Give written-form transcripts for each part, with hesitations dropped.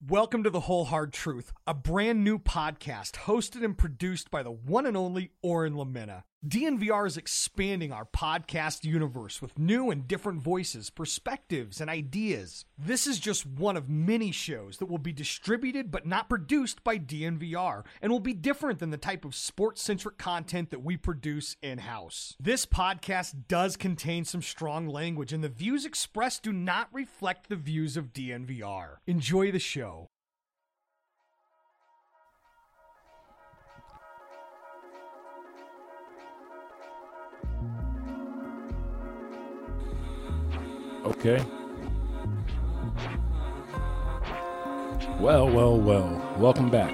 Welcome to The Whole Hard Truth, a brand new podcast hosted and produced by the one and only Oren Lamena. DNVR is expanding our podcast universe with new and different voices, perspectives, and ideas. This is just one of many shows that will be distributed but not produced by DNVR and will be different than the type of sports-centric content that we produce in-house. This podcast does contain some strong language, and the views expressed do not reflect the views of DNVR. Enjoy the show. Okay. Well. Welcome back.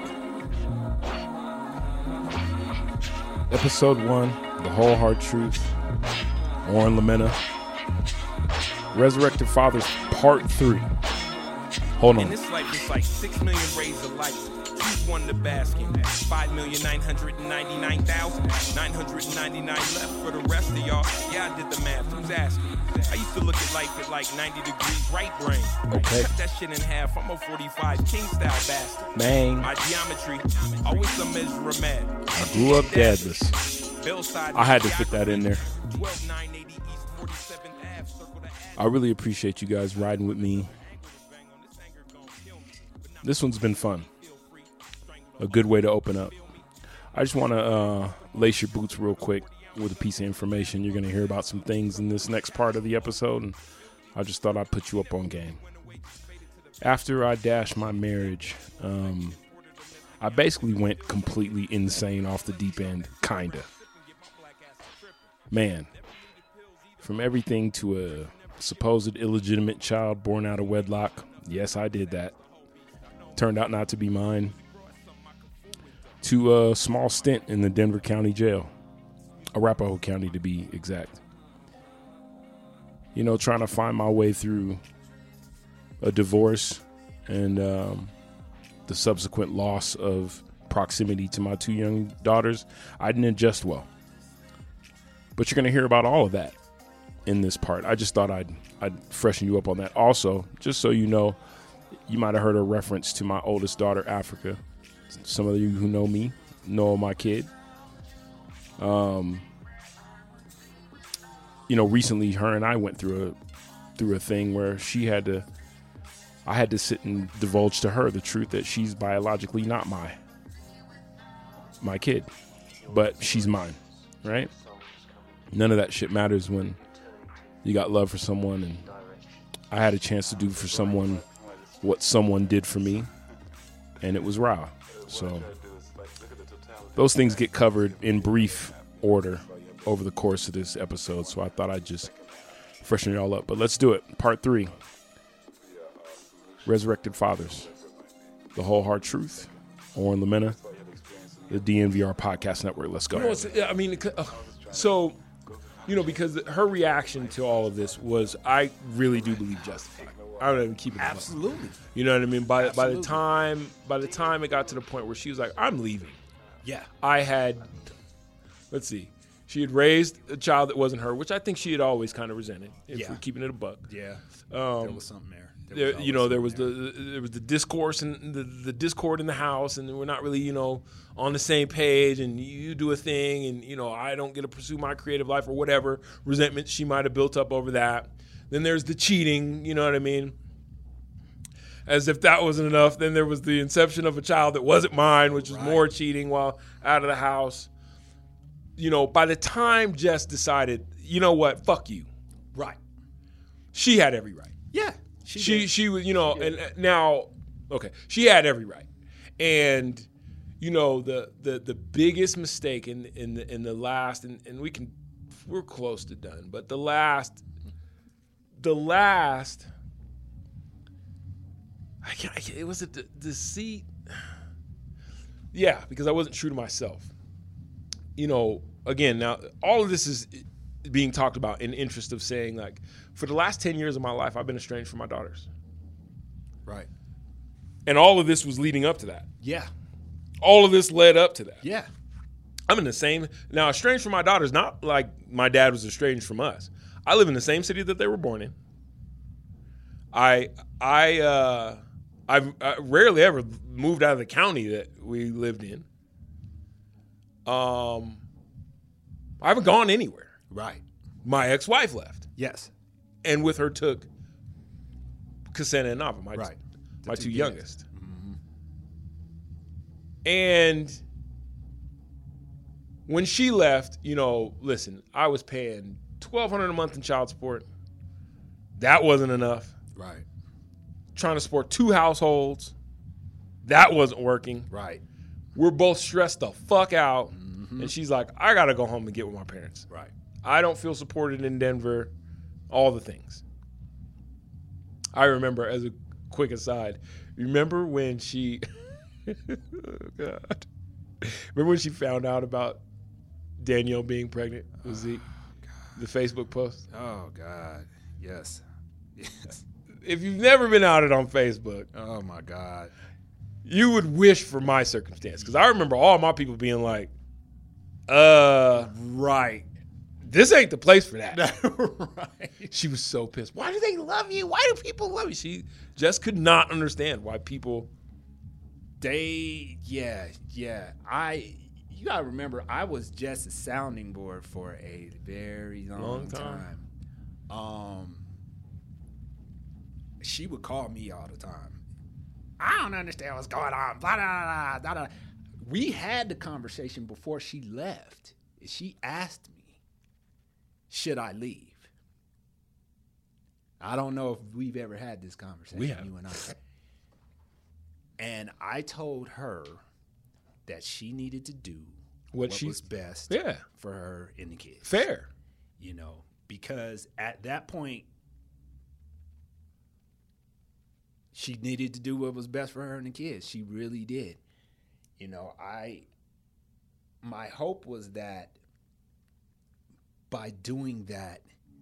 Episode 1, The Whole Hard Truth. Oren Lamena. Resurrected Fathers, Part 3. Hold on. In this life, it's like 6 million rays of light. Who's won the basket? 5,999,999 left for the rest of y'all. Yeah, I did the math. Who's asking? I used to look at life at like 90 degrees right brain. Okay. Cut that shit in half. I'm a 45 king style bastard. Man. My geometry, always some measure of mad. I grew up dadless. I had to fit that in there. 12980 East 47th Ave, circle the Ave. I really appreciate you guys riding with me. This one's been fun. A good way to open up. I just want to lace your boots real quick with a piece of information. You're going to hear about some things in this next part of the episode, and I just thought I'd put you up on game. After I dashed my marriage, I basically went completely insane off the deep end, kinda. Man, from everything to a supposed illegitimate child born out of wedlock, yes, I did that. Turned out not to be mine. To a small stint in the Denver County Jail. Arapahoe County to be exact. You know, trying to find my way through a divorce and the subsequent loss of proximity to my 2 young daughters. I didn't adjust well. But you're going to hear about all of that in this part. I just thought I'd freshen you up on that. Also, just so you know, you might have heard a reference to my oldest daughter, Africa. Some of you who know me know my kid. You know, recently her and I went through a thing where I had to sit and divulge to her the truth that she's biologically not my kid, but she's mine, right? None of that shit matters when you got love for someone, and I had a chance to do for someone what someone did for me, and it was raw. So those things get covered in brief order over the course of this episode, so I thought I'd just freshen it all up. But let's do it. Part 3. Resurrected Fathers. The Whole Hard Truth. Oren Lamena. The DNVR Podcast Network. Let's go. Because her reaction to all of this was, I really do believe justified. I don't even keep it. Absolutely. You know what I mean? By the time it got to the point where she was like, I'm leaving. Yeah. She had raised a child that wasn't her, which I think she had always kind of resented. If we're keeping it a buck. Yeah. There was something there. There was the discourse and the discord in the house, and we're not really, on the same page, and you do a thing, and, I don't get to pursue my creative life or whatever resentment she might have built up over that. Then there's the cheating, you know what I mean? As if that wasn't enough, then there was the inception of a child that wasn't mine, which was more cheating while out of the house. By the time Jess decided, you know what, fuck you. Right. She had every right. Yeah. She was, and now, okay, she had every right. And, the biggest mistake in the last, and we're close to done, but the last, it was a deceit. Yeah, because I wasn't true to myself. Again, now all of this is being talked about in interest of saying, like, for the last 10 years of my life, I've been estranged from my daughters. Right. And all of this was leading up to that. Yeah. All of this led up to that. Yeah. I'm in the same, now estranged from my daughters, not like my dad was estranged from us. I live in the same city that they were born in. I I rarely ever moved out of the county that we lived in. I haven't gone anywhere. Right. My ex-wife left, Yes. and with her took Ksena and Nava, my Right. my The two two youngest. And when she left, listen, I was paying $1,200 a month in child support. That wasn't enough. Right. Trying to support 2 households. That wasn't working. Right. We're both stressed the fuck out. And she's like, I got to go home and get with my parents. Right. I don't feel supported in Denver. All the things. I remember, as a quick aside, remember when she... oh, God. Remember when she found out about Danielle being pregnant with Zeke? The Facebook post? Oh, God. Yes. Yes. If you've never been outed on Facebook, Oh, my God. you would wish for my circumstance. Because I remember all my people being like, right. This ain't the place for that. Right. She was so pissed. Why do they love you? Why do people love you? She just could not understand why people... Yeah. You gotta remember, I was just a sounding board for a very long time. She would call me all the time. I don't understand what's going on. Blah, blah, blah, blah, blah. We had the conversation before she left. She asked me, should I leave? I don't know if we've ever had this conversation, We have. you and I. And I told her that she needed to do what was best for her and the kids. Fair. Because at that point, she needed to do what was best for her and the kids. She really did. My hope was that by doing that,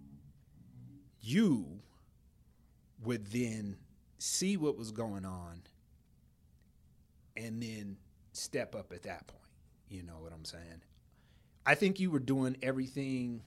you would then see what was going on and then step up at that point. You know what I'm saying? I think you were doing everything.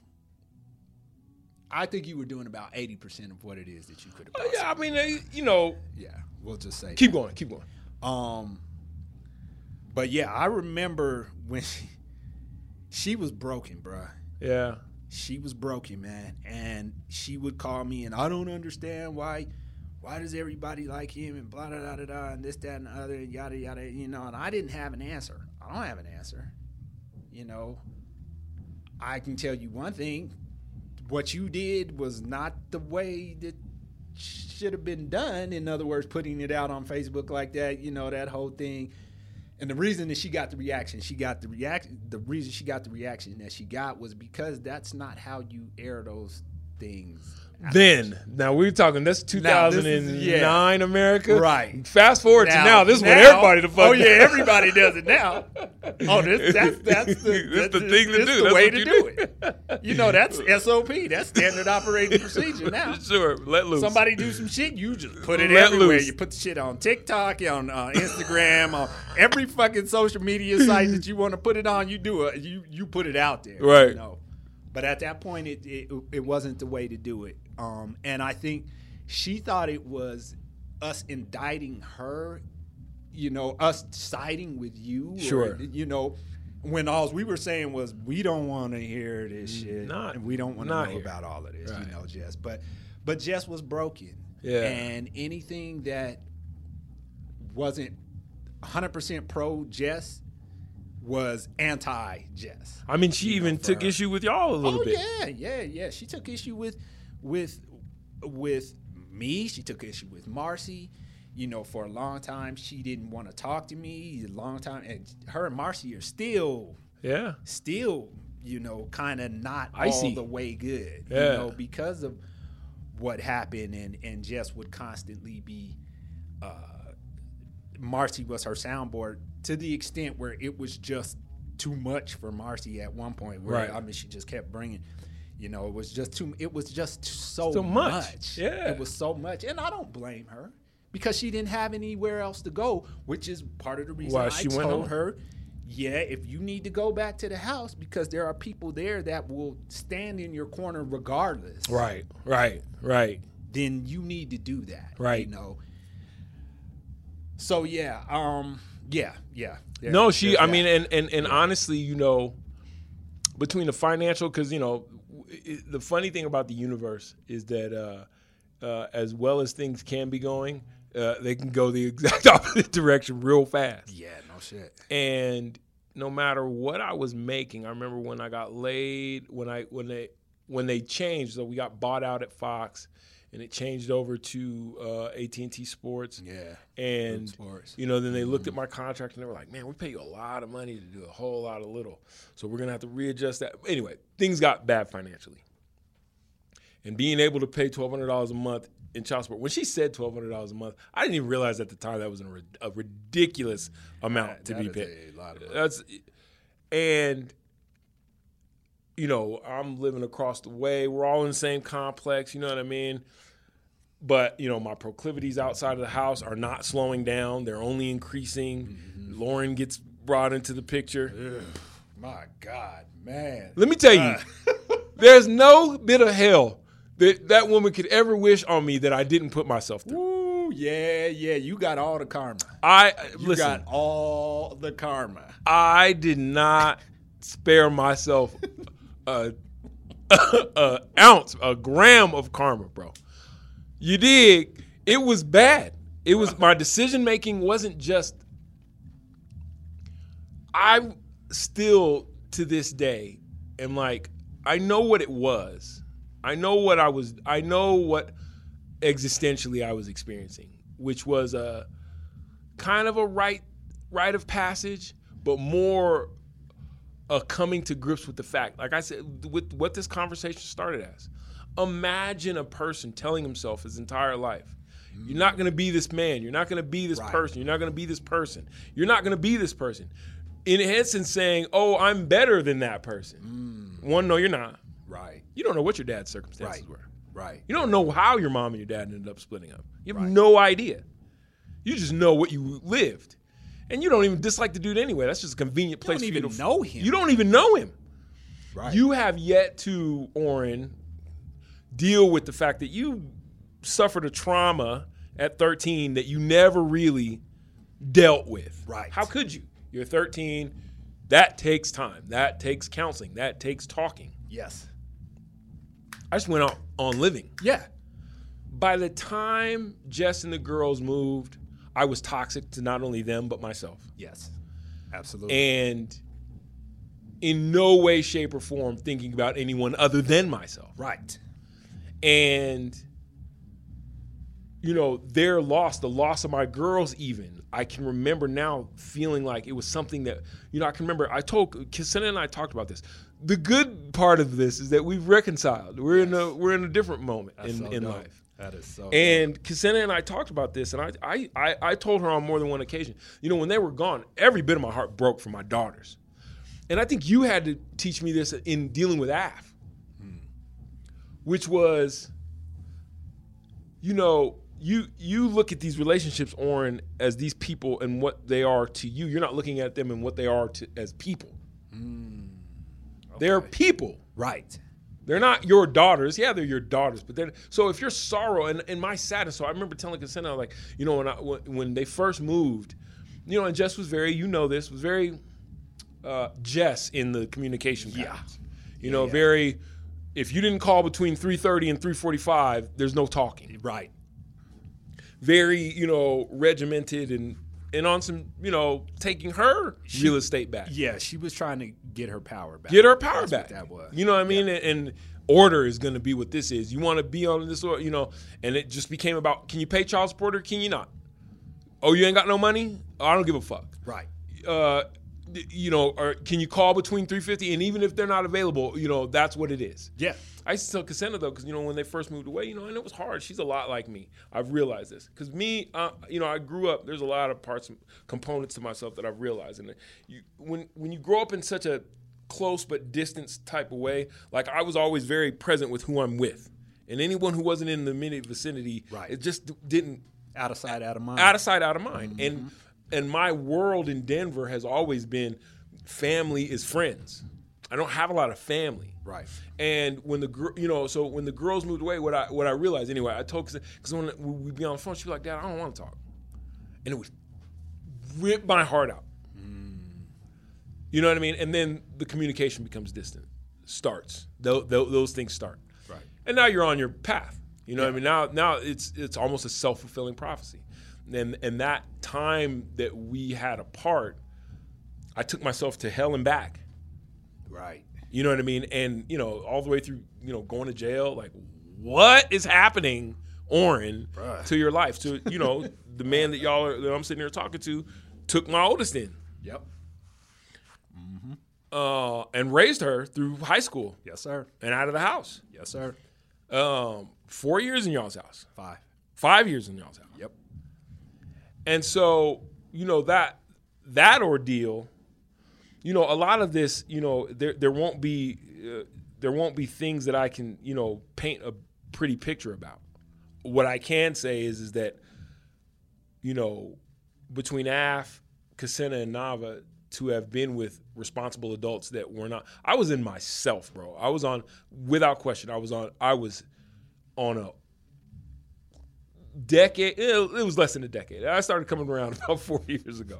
I think you were doing about 80% of what it is that you could have possibly. Yeah, I mean, Yeah, we'll just say keep that. going. But yeah, I remember when she was broken, bruh. Yeah. She was broken, man. And she would call me, and I don't understand why does everybody like him, and blah, blah, blah, blah, blah, and this, that, and the other, and yada, yada, and I didn't have an answer. I don't have an answer. I can tell you one thing. What you did was not the way that should have been done. In other words, putting it out on Facebook like that, that whole thing. And the reason that she got the reaction that she got was because that's not how you air those things. Now we're talking, that's 2009 America. Right. Fast forward to now, this is what everybody the fuck does. Everybody does it now. Oh, that's the thing to do. The way to do it. That's SOP. That's standard operating procedure now. Sure, let loose. Somebody do some shit, you just put it Let everywhere. loose. You put the shit on TikTok, on Instagram, on every fucking social media site that you want to put it on. You do it. You put it out there. Right. But at that point, it wasn't the way to do it. And I think she thought it was us indicting her, us siding with you. Sure. Or, when all we were saying was, we don't want to hear this shit. And we don't want to know about all of this, right. Jess. But Jess was broken. Yeah. And anything that wasn't 100% pro Jess was anti-Jess. I mean, she even took issue with y'all a little bit. Yeah. She took issue with me. She took issue with Marcy. For a long time, she didn't want to talk to me. A long time, and her and Marcy are still, kind of not icy. all the way good. Yeah. Because of what happened, and Jess would constantly be. Marcy was her soundboard to the extent where it was just too much for Marcy at one point. Where she just kept bringing. It was just too. It was just so much. Yeah, it was so much, and I don't blame her because she didn't have anywhere else to go, which is part of the reason I told her, if you need to go back to the house because there are people there that will stand in your corner regardless. Right. Then you need to do that. Right. So yeah. No, she. There's I that. mean, and honestly, you know, between the financial, because you know, the funny thing about the universe is that as well as things can be going, they can go the exact opposite direction real fast. Yeah, no shit. And no matter what I was making, I remember when I got laid, when they changed, so we got bought out at Fox, and it changed over to AT&T Sports. Yeah. And Sports. you know, then they looked at my contract and they were like, "Man, we pay you a lot of money to do a whole lot of little, so we're gonna have to readjust that." Anyway, things got bad financially, and being able to pay $1,200 a month in child support. When she said $1,200 a month, I didn't even realize at the time that was a ridiculous amount to be paid. A lot of money. And you know, I'm living across the way. We're all in the same complex. You know what I mean? But, you know, my proclivities outside of the house are not slowing down. They're only increasing. Mm-hmm. Lauren gets brought into the picture. Ugh, my God, man. Let me tell you, there's no bit of hell that woman could ever wish on me that I didn't put myself through. Ooh, yeah. You got all the karma. Listen, got all the karma. I did not spare myself an ounce, a gram of karma, bro. You dig? It was bad. It was my decision making wasn't just. I still to this day am like, I know what it was. I know what existentially I was experiencing, which was a kind of a rite of passage, but more a coming to grips with the fact. Like I said, with what this conversation started as. Imagine a person telling himself his entire life, you're not going to be this man. You're not going to be this person. You're not going to be this person. You're not going to be this person. In essence saying, oh, I'm better than that person. One, no, you're not. Right. You don't know what your dad's circumstances were. Right. You don't know how your mom and your dad ended up splitting up. You have no idea. You just know what you lived. And you don't even dislike the dude anyway. That's just a convenient place for you to know him. You don't even know him. Right. You have yet to, Oren, deal with the fact that you suffered a trauma at 13 that you never really dealt with. Right. How could you? You're 13. That takes time. That takes counseling. That takes talking. Yes. I just went on living. Yeah. By the time Jess and the girls moved, I was toxic to not only them, but myself. Yes. Absolutely. And in no way, shape, or form thinking about anyone other than myself. Right. And, you know, their loss, the loss of my girls even, I can remember now feeling like it was something that, you know, I can remember, Ksenia and I talked about this. The good part of this is that we've reconciled. We're in a different moment in life. That is so And Ksenia and I talked about this, and I told her on more than one occasion, you know, when they were gone, every bit of my heart broke for my daughters. And I think you had to teach me this in dealing with Af. Which was, you know, you look at these relationships, Oren, as these people and what they are to you. You're not looking at them and what they are as people. Okay. They're people. Right. They're not your daughters. Yeah, they're your daughters. But so if your sorrow and my sadness, so I remember telling Ksenia, like, you know, when they first moved, you know, and Jess was very, you know this, was very Jess in the communication patterns. You know, very... If you didn't call between 3:30 and 3:45, there's no talking. Right. Very, you know, regimented and on some, you know, taking her real estate back. Yeah, she was trying to get her power back. Get her power That's back. What that was. You know what I mean? And order is going to be what this is. You want to be on this, you know, and it just became about, can you pay child support or can you not? Oh, you ain't got no money? Oh, I don't give a fuck. Right. You know, or can you call between 3:50 and even if they're not available, you know, that's what it is. Yeah. I used to tell Ksenia though, because you know when they first moved away, you know, and it was hard. She's a lot like me. I've realized this because me, you know, I grew up. There's a lot of parts, and components to myself that I've realized, and when you grow up in such a close but distant type of way, like I was always very present with who I'm with, and anyone who wasn't in the immediate vicinity, it just didn't. Out of sight, out of mind. Out of sight, out of mind, and my world in Denver has always been family is friends. I don't have a lot of family. Right. And when when the girls moved away, what I realized anyway, I told because when we'd be on the phone, she'd be like, "Dad, I don't want to talk," and it would rip my heart out. You know what I mean? And then the communication becomes distant. Starts. Those things start. Right. And now you're on your path. You know what I mean? Now it's almost a self-fulfilling prophecy. And that time that we had apart, I took myself to hell and back. Right. You know what I mean? And, you know, all the way through, you know, going to jail, like, what is happening, Oren, to your life? To, you know, the man that I'm sitting here talking to took my oldest in. Yep. And raised her through high school. Yes, sir. And out of the house. Yes, sir. 4 years in y'all's house. 5. 5 years in y'all's house. Yep. And so, you know, that ordeal, you know, a lot of this, you know, there won't be things that I can, you know, paint a pretty picture about. What I can say is that, you know, between Af, Kasena, and Nava, to have been with responsible adults that were not, I was in myself, bro. I was on, without question, I was on a decade. It was less than a decade. I started coming around about 4 years ago.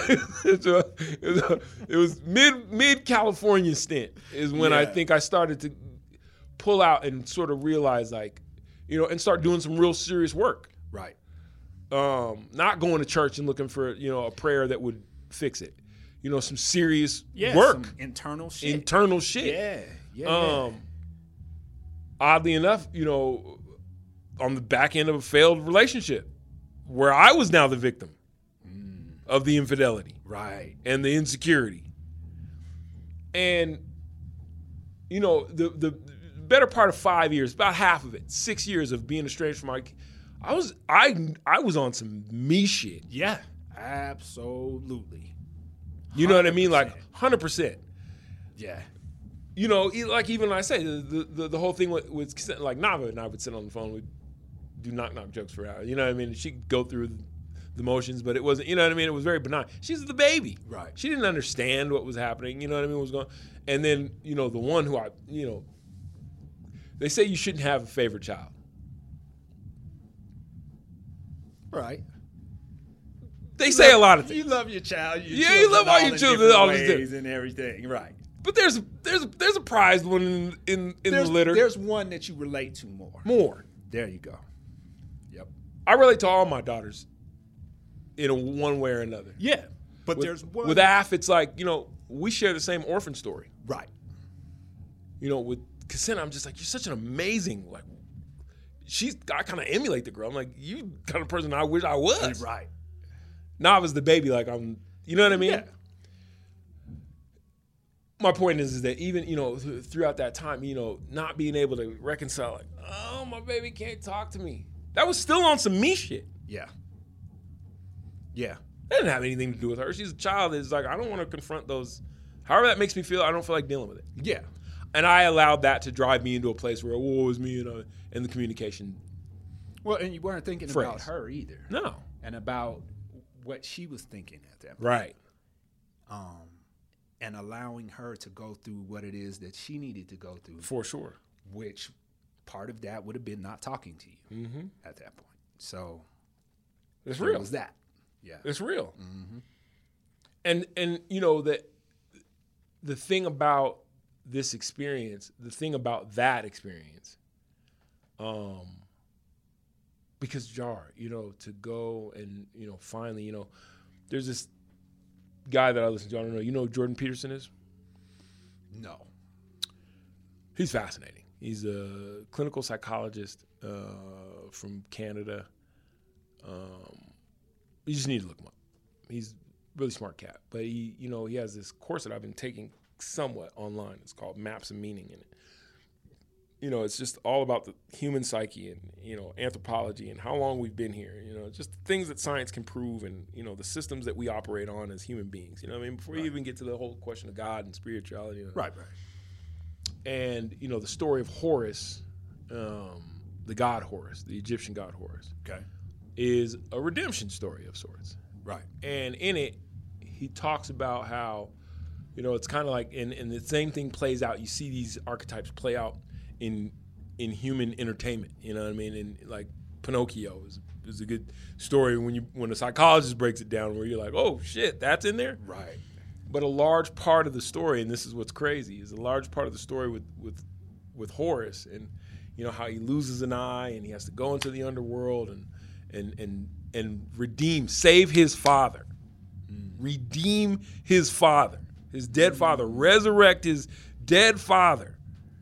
It was mid California stint is when I think I started to pull out and sort of realize, like, you know, and start doing some real serious work. Right. Not going to church and looking for, you know, a prayer that would fix it. You know, some serious work. Some internal shit. Internal shit. Yeah. Oddly enough, you know, on the back end of a failed relationship where I was now the victim of the infidelity. Right. And the insecurity. And, you know, the better part of 5 years, about half of it, 6 years of being estranged from I was on some me shit. Yeah. Absolutely. You know what I mean? 100%. Like 100%. Yeah. You know, like even I say, the whole thing with like Nava and I would sit on the phone, we'd do knock jokes for hours. You know what I mean? She'd go through the motions, but it wasn't, you know what I mean? It was very benign. She's the baby. Right. She didn't understand what was happening. You know what I mean? What was going on. And then, you know, the one who they say you shouldn't have a favorite child. Right. They say a lot of things. You love your child. You love all your children. All these things and everything. Right. But there's a prized one in the litter. There's one that you relate to more. More. There you go. Yep. I relate to all my daughters in one way or another. Yeah. But there's one. With Af, it's like, you know, we share the same orphan story. Right. You know, with Kasena, I'm just like, you're such an amazing, like, I kind of emulate the girl. I'm like, you kind of person I wish I was. Right. Nava's the baby, like I'm, you know what I mean? Yeah. My point is that even, you know, throughout that time, you know, not being able to reconcile, like, oh, my baby can't talk to me. That was still on some me shit. Yeah. Yeah. That didn't have anything to do with her. She's a child. It's like, I don't want to confront those. However that makes me feel, I don't feel like dealing with it. Yeah. And I allowed that to drive me into a place where, woe is me, you know, and the communication. Well, and you weren't thinking about her either. No. And about what she was thinking at that point. Right. And allowing her to go through what it is that she needed to go through. For sure. Which part of that would have been not talking to you at that point. So it's real. It was that. Yeah. It's real. Mm-hmm. And you know, that the thing about this experience, the thing about that experience, because Jar, you know, to go and, you know, finally, you know, there's this guy that I listen to, I don't know, you know who Jordan Peterson is? No. He's fascinating. He's a clinical psychologist from Canada. You just need to look him up. He's a really smart cat. But he, you know, he has this course that I've been taking somewhat online. It's called Maps of Meaning. And, you know, it's just all about the human psyche and, you know, anthropology and how long we've been here. You know, just things that science can prove and, you know, the systems that we operate on as human beings. You know what I mean? Before you even get to the whole question of God and spirituality. You know. Right. And, you know, the story of Horus, the god Horus, the Egyptian god Horus, is a redemption story of sorts. Right. And in it, he talks about how, you know, it's kind of like, and the same thing plays out. You see these archetypes play out in human entertainment, you know what I mean? And like Pinocchio is is a good story when a psychologist breaks it down, where you're like, oh shit, that's in there. Right. But a large part of the story, and this is what's crazy, is a large part of the story with Horace, and how he loses an eye and he has to go into the underworld and save his father, redeem his father, his dead father, resurrect his dead father.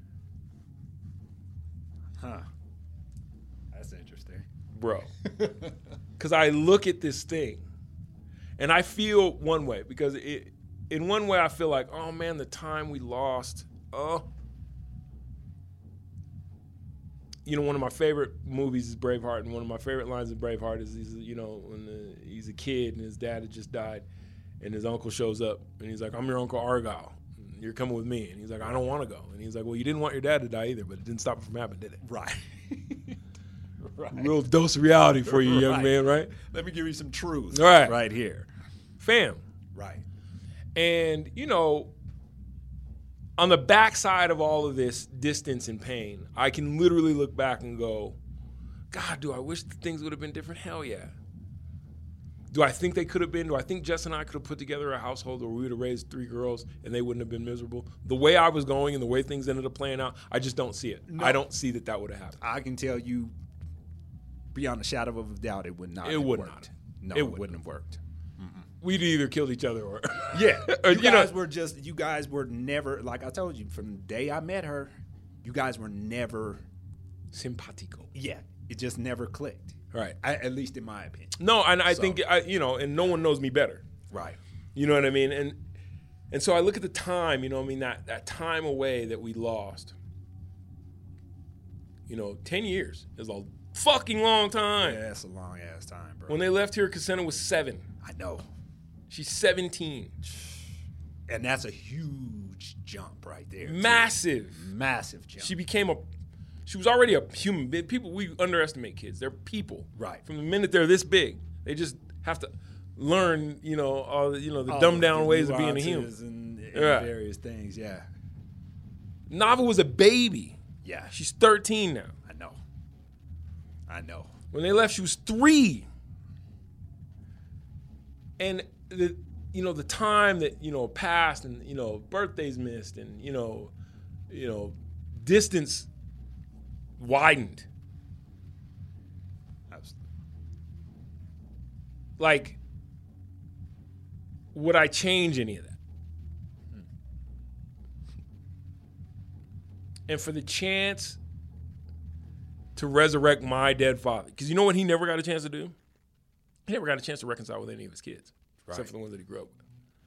Huh. That's interesting. Bro. Because I look at this thing and I feel one way, because in one way I feel like, oh man, the time we lost. One of my favorite movies is Braveheart, and one of my favorite lines in Braveheart is when he's a kid and his dad had just died, and his uncle shows up and he's like, I'm your Uncle Argyle. You're coming with me. And he's like, I don't want to go. And he's like, well, you didn't want your dad to die either, but it didn't stop it from happening, did it? Right. Right. Real dose of reality for you, young man, right? Let me give you some truth right here. Fam. Right. And, on the backside of all of this distance and pain, I can literally look back and go, God, do I wish things would have been different? Hell yeah. Do I think they could have been? Do I think Jess and I could have put together a household where we would have raised 3 girls and they wouldn't have been miserable? The way I was going and the way things ended up playing out, I just don't see it. No. I don't see that would have happened. I can tell you beyond a shadow of a doubt it would not have worked. Not. No, it wouldn't have worked. We'd either killed each other or yeah. You guys were never, like I told you, from the day I met her, you guys were never simpatico. Yeah, it just never clicked. Right. At least in my opinion. No, and I think and no one knows me better. Right. You know what I mean? And so I look at the time, that time away that we lost. 10 years is a fucking long time. Yeah, that's a long ass time, bro. When they left here, Cassandra was 7. I know. She's 17. And that's a huge jump right there. Massive. Too. Massive jump. She was already a human being. People, we underestimate kids. They're people. Right. From the minute they're this big, they just have to learn, all the dumbed down ways of being a human. And various things, yeah. Nava was a baby. Yeah. She's 13 now. I know. When they left, she was 3. And the time that, passed and, birthdays missed and, distance widened. Absolutely. Like, would I change any of that? And for the chance to resurrect my dead father, because you know what he never got a chance to do? He never got a chance to reconcile with any of his kids, except for the ones that he grew up with.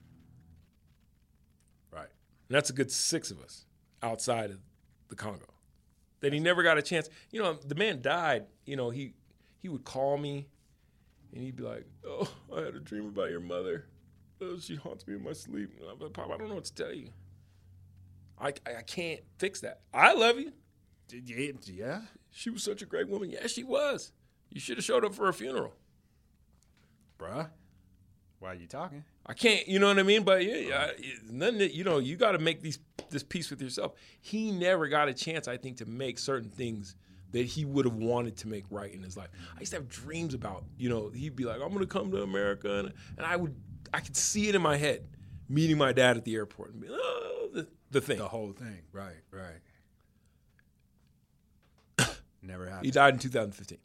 Right. And that's a good 6 of us outside of the Congo. That he never got a chance. The man died. He would call me, and he'd be like, "Oh, I had a dream about your mother. Oh, she haunts me in my sleep." And I'm like, "Pop, I don't know what to tell you. I can't fix that. I love you." Yeah. She was such a great woman. Yeah, she was. You should have showed up for her funeral. Bruh, why are you talking? I can't, you know what I mean? But nothing that, you got to make this peace with yourself. He never got a chance, I think, to make certain things that he would have wanted to make right in his life. I used to have dreams about, he'd be like, I'm going to come to America. And I could see it in my head, meeting my dad at the airport and be like, oh, the thing. The whole thing. Right. Never happened. He died in 2015.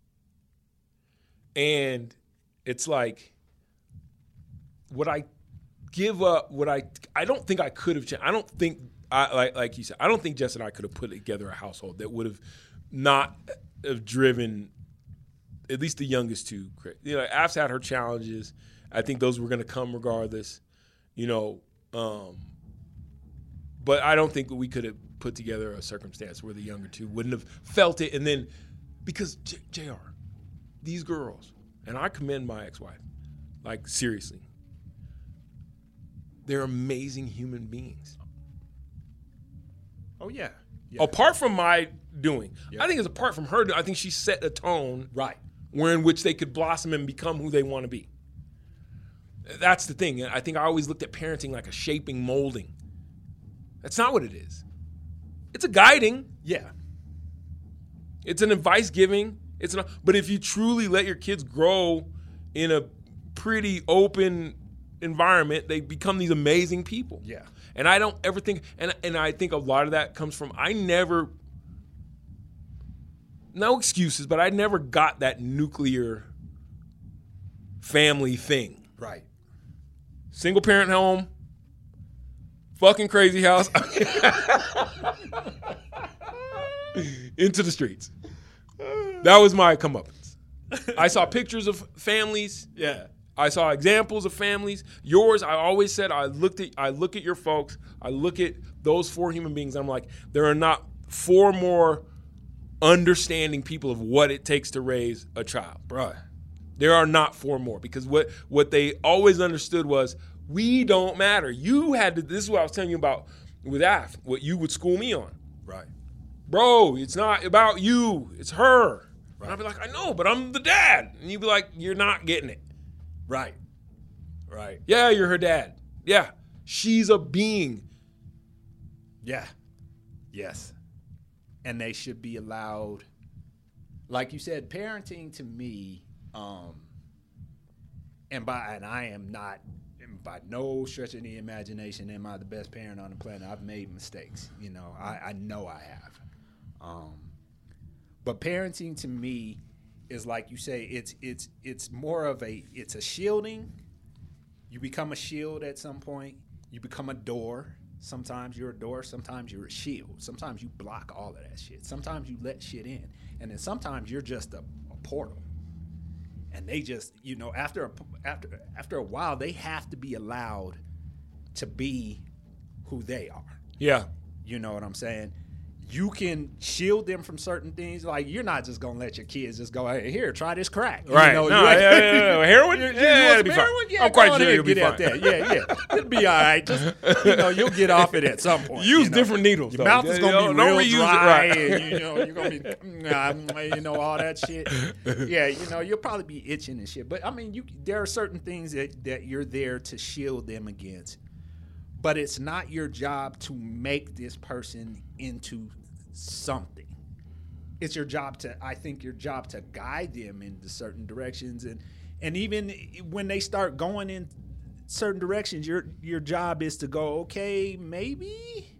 And it's like, would I give up? I don't think I could have changed. I don't think, like you said, I don't think Jess and I could have put together a household that would have not have driven at least the youngest 2. Af's had her challenges. I think those were going to come regardless, but I don't think we could have put together a circumstance where the younger 2 wouldn't have felt it. And then, because JR, these girls, and I commend my ex-wife, like seriously, they're amazing human beings. Oh, yeah. Apart from my doing. Yep. I think it's apart from her doing. I think she set a tone in which they could blossom and become who they want to be. That's the thing. I think I always looked at parenting like a shaping, molding. That's not what it is. It's a guiding. Yeah. It's an advice giving. It's not. But if you truly let your kids grow in a pretty open environment, they become these amazing people. Yeah. And I don't ever think, and I think a lot of that comes from, no excuses, but I never got that nuclear family thing. Right. Single parent home, fucking crazy house, into the streets. That was my comeuppance. I saw pictures of families. Yeah. I saw examples of families. Yours, I always said, I look at your folks, I look at those 4 human beings, and I'm like, there are not 4 more understanding people of what it takes to raise a child. Bruh. There are not 4 more, because what they always understood was, we don't matter. You had to, this is what I was telling you about with Af, what you would school me on. Right. Bro, it's not about you, it's her. Right. And I'd be like, I know, but I'm the dad. And you'd be like, you're not getting it. Right. Right. Yeah, you're her dad. Yeah, she's a being. Yeah. Yes. And they should be allowed, like you said, parenting to me, and I am not, by no stretch of the imagination, am I the best parent on the planet. I've made mistakes. You know, I know I have. But parenting to me is, like you say, it's more of it's a shielding. You become a shield at some point. You become a door. Sometimes you're a door. Sometimes you're a shield. Sometimes you block all of that shit. Sometimes you let shit in. And then sometimes you're just a portal. And they just, you know, after a while, they have to be allowed to be who they are. Yeah. You know what I'm saying? You can shield them from certain things. Like, you're not just going to let your kids just go, hey, here, try this crack. Right. You know, no, yeah. Heroin? Yeah, it'll be fine. Yeah, I'm quite sure you'll be fine. That. Yeah. It'll be all right. Just, you know, you'll get off it at some point. Use different needles, Your though. mouth is going to be Don't real reuse dry. it, right. And, you know, you're going to be, you know, all that shit. Yeah, you know, you'll probably be itching and shit. But, I mean, there are certain things that you're there to shield them against. But it's not your job to make this person into something. It's your job to guide them into certain directions, and even when they start going in certain directions, your job is to go, okay, maybe,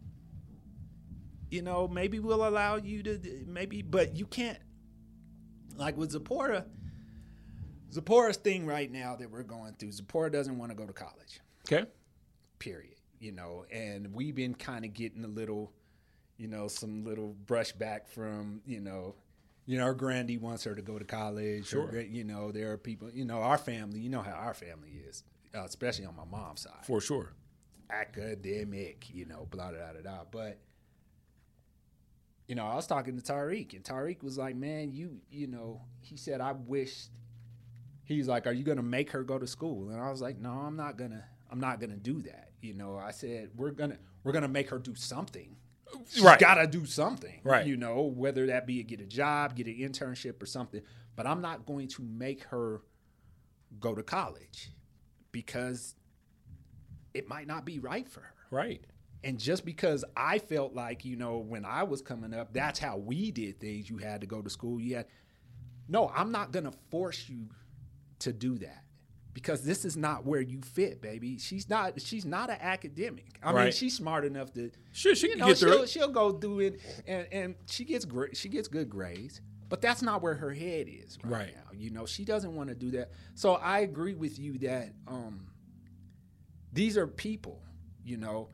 you know, maybe we'll allow you to, maybe, but you can't, like with Zipporah's thing right now that we're going through. Zipporah doesn't want to go to college. Okay. Period. You know, and we've been kind of getting a little, you know, some little brushback from, you know, our Grandy wants her to go to college. Sure. Or, you know, there are people, you know, our family, you know how our family is, especially on my mom's side. For sure. Academic, you know, blah, blah, blah, blah. But, you know, I was talking to Tariq, and Tariq was like, man, you know, he said, I wish, he's like, are you going to make her go to school? And I was like, no, I'm not going to do that. You know, I said, we're going to make her do something. She's got to do something, right? You know, whether that be get a job, get an internship or something. But I'm not going to make her go to college because it might not be right for her. Right. And just because I felt like, you know, when I was coming up, that's how we did things. You had to go to school. No, I'm not going to force you to do that. Because this is not where you fit, baby. She's not an academic. I mean, she's smart enough to. Sure, she can get through it. She'll go do it, and she gets good grades. But that's not where her head is right now. You know, she doesn't want to do that. So I agree with you that these are people, you know,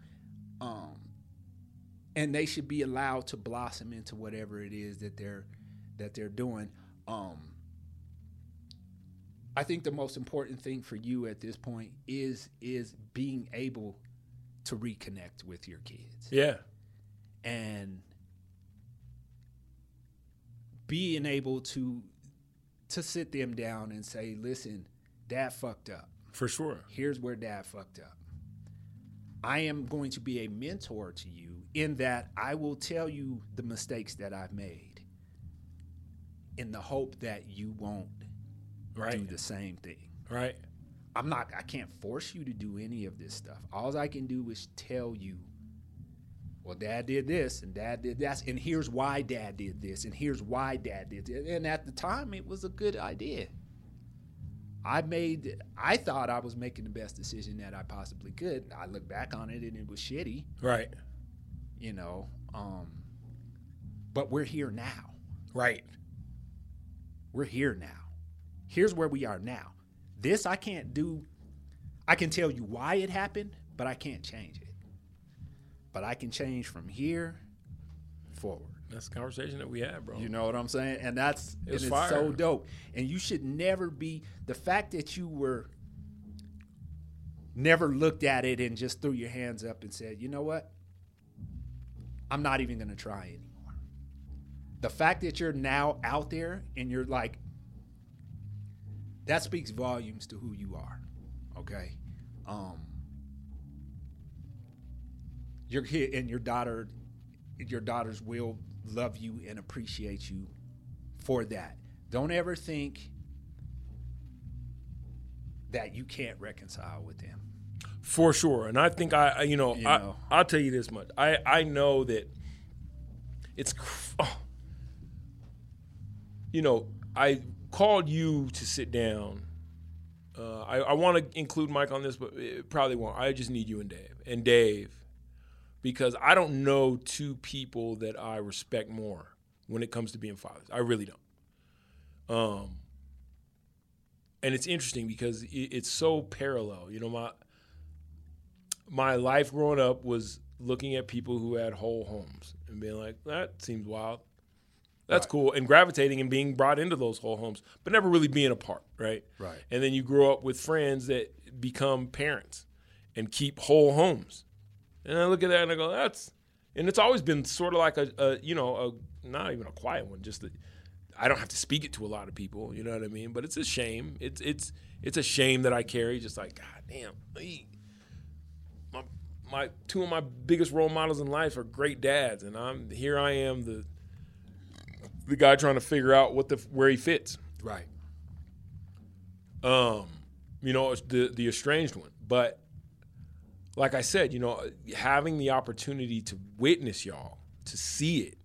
and they should be allowed to blossom into whatever it is that they're doing. I think the most important thing for you at this point is being able to reconnect with your kids. Yeah. And being able to sit them down and say, listen, Dad fucked up. For sure. Here's where Dad fucked up. I am going to be a mentor to you in that I will tell you the mistakes that I've made in the hope that you won't do the same thing. Right. I can't force you to do any of this stuff. All I can do is tell you well, Dad did this and Dad did that, and here's why Dad did this, and here's why Dad did this. And at the time, it was a good idea. I thought I was making the best decision that I possibly could. I look back on it and it was shitty. Right. You know, but we're here now. Right. We're here now. Here's where we are now. This I can't do. I can tell you why it happened, but I can't change it. But I can change from here forward. That's the conversation that we had, bro. You know what I'm saying? And it's fire. so dope. And you should never be, the fact that you were never looked at it and just threw your hands up and said, you know what? I'm not even going to try anymore. The fact that you're now out there and you're like, that speaks volumes to who you are. Okay? Your kid and your daughters will love you and appreciate you for that. Don't ever think that you can't reconcile with them. For sure. And I think I'll tell you this much. I know that it's, I called you to sit down. I want to include Mike on this, but it probably won't. I just need you and Dave. Because I don't know two people that I respect more when it comes to being fathers. I really don't. And it's interesting because it's so parallel. You know, my life growing up was looking at people who had whole homes and being like, that seems wild. That's cool. And gravitating and being brought into those whole homes, but never really being a part, right? Right. And then you grow up with friends that become parents and keep whole homes. And I look at that and I go, and it's always been sort of like a not even a quiet one, just that I don't have to speak it to a lot of people, you know what I mean? But it's a shame. It's a shame that I carry, just like, God damn, my two of my biggest role models in life are great dads, and I am the guy trying to figure out where he fits. Right. It's the estranged one, but. Like I said, having the opportunity to witness y'all, to see it,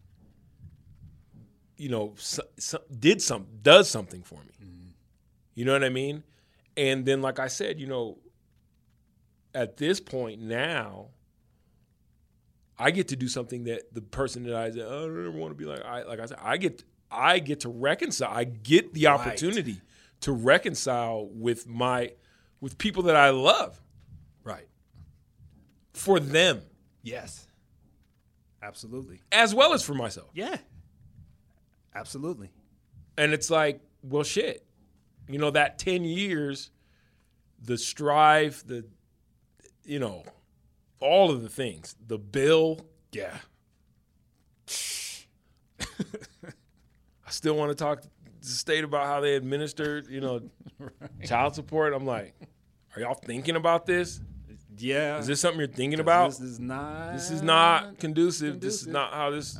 does something for me. Mm-hmm. You know what I mean? And then, like I said, at this point now, I get to do something that the person that I said, I don't ever want to be like I said, I get to reconcile. I get the opportunity to reconcile with people that I love. Right. For them. Yes. Absolutely. As well as for myself. Yeah. Absolutely. And it's like, well, shit. That 10 years, the strife, all of the things, the bill. Yeah. I still want to talk to the state about how they administered, child support. I'm like, are y'all thinking about this? Yeah. Is this something you're thinking about? This is not conducive. This is not how this.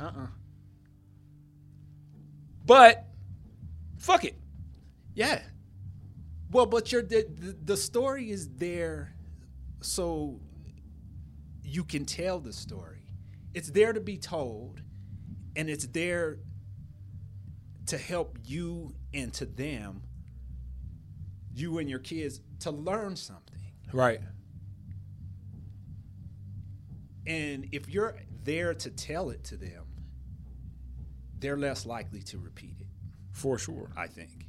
But fuck it. Yeah. Well, but the story is there so you can tell the story. It's there to be told, and it's there to help you and to them, you and your kids, to learn something. Right. And if you're there to tell it to them, they're less likely to repeat it. For sure. I think.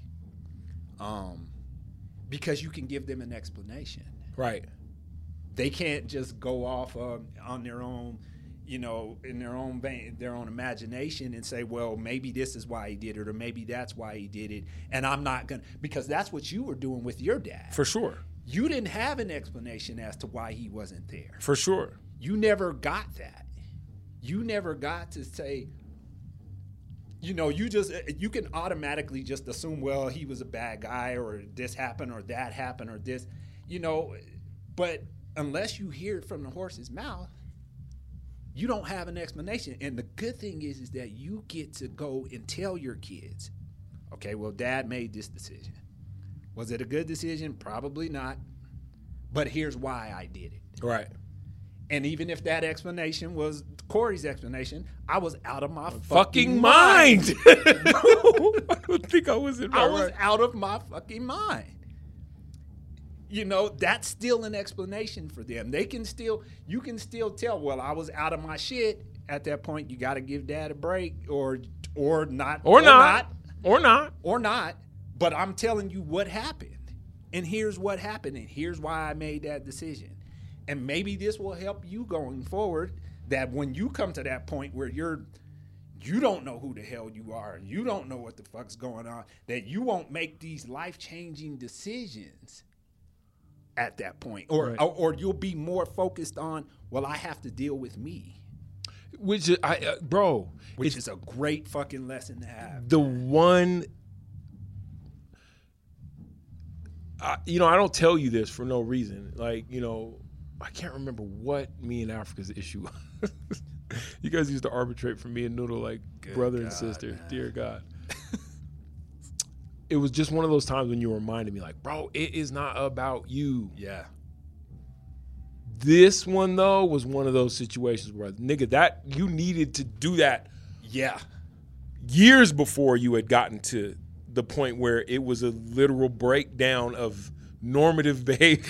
Because you can give them an explanation. Right. They can't just go off on their own, in their own vein, their own imagination and say, well, maybe this is why he did it, or maybe that's why he did it. And I'm not going to, because that's what you were doing with your dad. For sure. You didn't have an explanation as to why he wasn't there. For sure. You never got that. You never got to say, you can automatically just assume, well, he was a bad guy, or this happened, or that happened, or this, but unless you hear it from the horse's mouth, you don't have an explanation. And the good thing is that you get to go and tell your kids, okay, well, Dad made this decision. Was it a good decision? Probably not. But here's why I did it. Right. And even if that explanation was Corey's explanation, I was out of my fucking mind. I don't think I was in my I was right. out of my fucking mind. You know, that's still an explanation for them. You can still tell, well, I was out of my shit. At that point, you got to give dad a break or not. Or not. But I'm telling you what happened. And here's what happened. And here's why I made that decision. And maybe this will help you going forward, that when you come to that point where you don't know who the hell you are and you don't know what the fuck's going on, that you won't make these life-changing decisions at that point. Or you'll be more focused on, well, I have to deal with me. Which is, bro. Which is a great fucking lesson to have. The one, I don't tell you this for no reason. Like, I can't remember what me and Africa's issue was. You guys used to arbitrate for me and Noodle like brother and sister. Man. Dear God. It was just one of those times when you reminded me, like, bro, it is not about you. Yeah. This one, though, was one of those situations where, nigga, that you needed to do that. Yeah. Years before you had gotten to the point where it was a literal breakdown of normative behavior.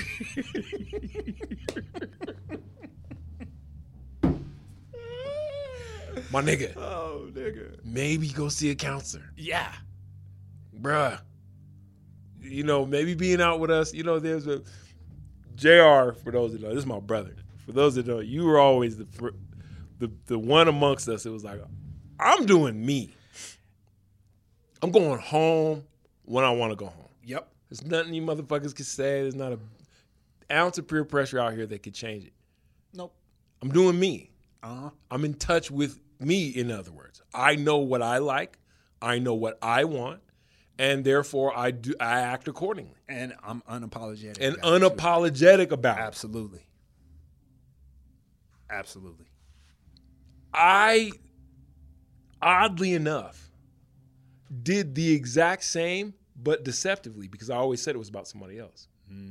My nigga. Oh, nigga. Maybe go see a counselor. Yeah. Bruh. Maybe being out with us, there's a JR, for those that know, this is my brother. For those that know, you were always the one amongst us. It was like, I'm doing me. I'm going home when I want to go home. Yep. There's nothing you motherfuckers can say. There's not an ounce of peer pressure out here that could change it. Nope. I'm doing me. Uh-huh. I'm in touch with me, in other words. I know what I like. I know what I want. And therefore, I act accordingly. And I'm unapologetic. And unapologetic about it. Absolutely. Absolutely. I, oddly enough, did the exact same, but deceptively, because I always said it was about somebody else.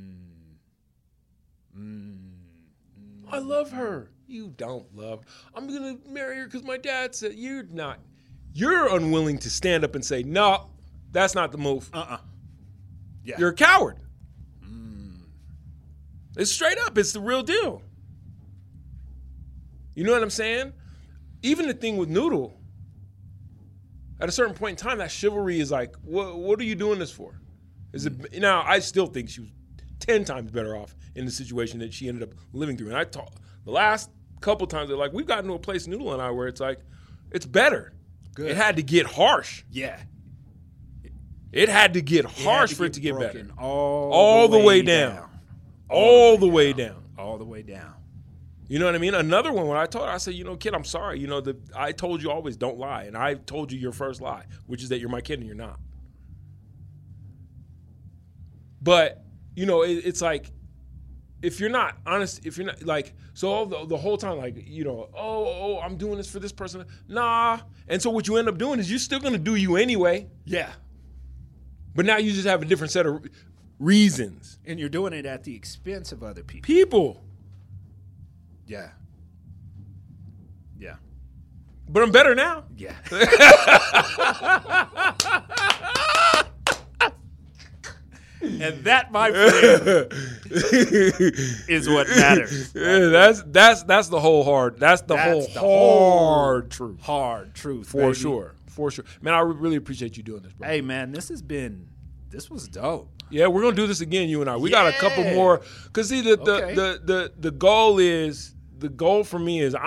I love her. You don't love her. I'm going to marry her because my dad said. You're not. You're unwilling to stand up and say, no, that's not the move. Yeah. You're a coward. It's straight up. It's the real deal. You know what I'm saying? Even the thing with Noodle, at a certain point in time, that chivalry is like, what are you doing this for? Is it now? I still think she was 10 times better off in the situation that she ended up living through. And the last couple times, they're like, we've gotten to a place, Noodle and I, where it's like, it's better. Good. It had to get harsh. Yeah. It had to get harsh for it to get better. All the way down. All the way down. All the way down. You know what I mean? Another one, when I told her, I said, kid, I'm sorry. I told you always don't lie. And I told you your first lie, which is that you're my kid and you're not. But, it's like, if you're not honest, if you're not like, so the whole time, like, I'm doing this for this person. Nah. And so what you end up doing is you're still going to do you anyway. Yeah. But now you just have a different set of reasons. And you're doing it at the expense of other people. Yeah. Yeah. But I'm better now. Yeah. And that, my friend, is what matters. Yeah, that's the whole hard. That's the whole hard truth. Hard truth, for baby. Sure. For sure. Man, I really appreciate you doing this, bro. Hey, man, this was dope. Yeah, we're gonna do this again, you and I. We got a couple more. Cause see, the goal for me is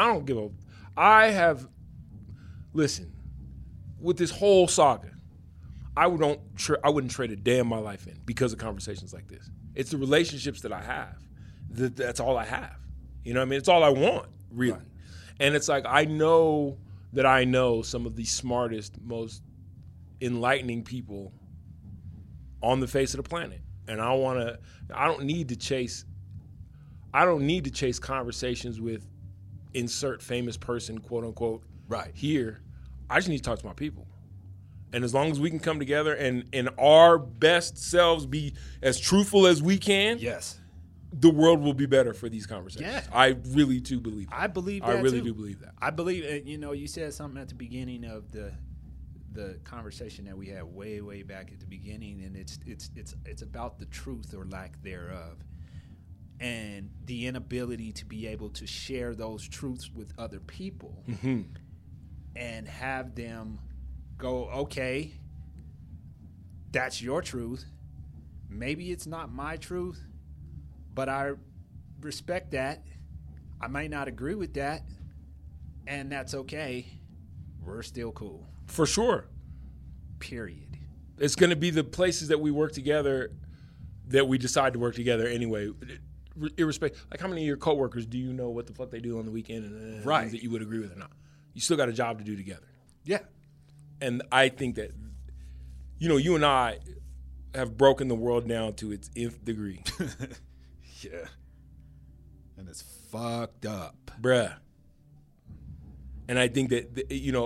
listen, with this whole saga, I wouldn't trade a day in my life in because of conversations like this. It's the relationships that I have. That's all I have. You know what I mean? It's all I want, really. Right. And it's like, I know that I know some of the smartest, most enlightening people on the face of the planet. And I don't need to chase conversations with insert famous person, quote unquote, right here. I just need to talk to my people. And as long as we can come together and in our best selves be as truthful as we can. Yes. the world will be better for these conversations. Yeah. I really do believe that. I believe that I really too. do believe that. I believe, you said something at the beginning of the conversation that we had way back at the beginning, and it's about the truth or lack thereof, and the inability to be able to share those truths with other people and have them go, okay, that's your truth. Maybe it's not my truth, but I respect that. I might not agree with that, and that's okay. We're still cool. For sure. Period. It's going to be the places that we work together that we decide to work together anyway. Irrespective, like how many of your coworkers do you know what the fuck they do on the weekend and Right. things that you would agree with or not? You still got a job to do together. Yeah. And I think that, you and I have broken the world down to its nth degree. Yeah. And it's fucked up. Bruh. And I think that,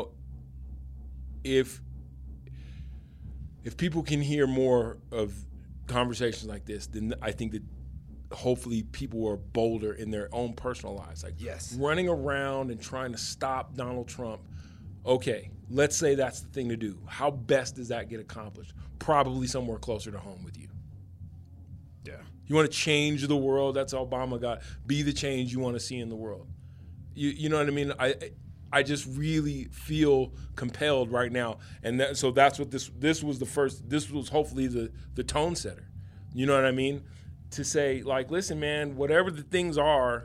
if people can hear more of conversations like this, then I think that hopefully people are bolder in their own personal lives. Like Yes. running around and trying to stop Donald Trump. Okay, let's say that's the thing to do. How best does that get accomplished? Probably somewhere closer to home with you. Yeah. You want to change the world? That's Obama got. Be the change you want to see in the world. You know what I mean? I just really feel compelled right now, and so that's what this was the first. This was hopefully the tone setter. You know what I mean? To say like, listen, man, whatever the things are,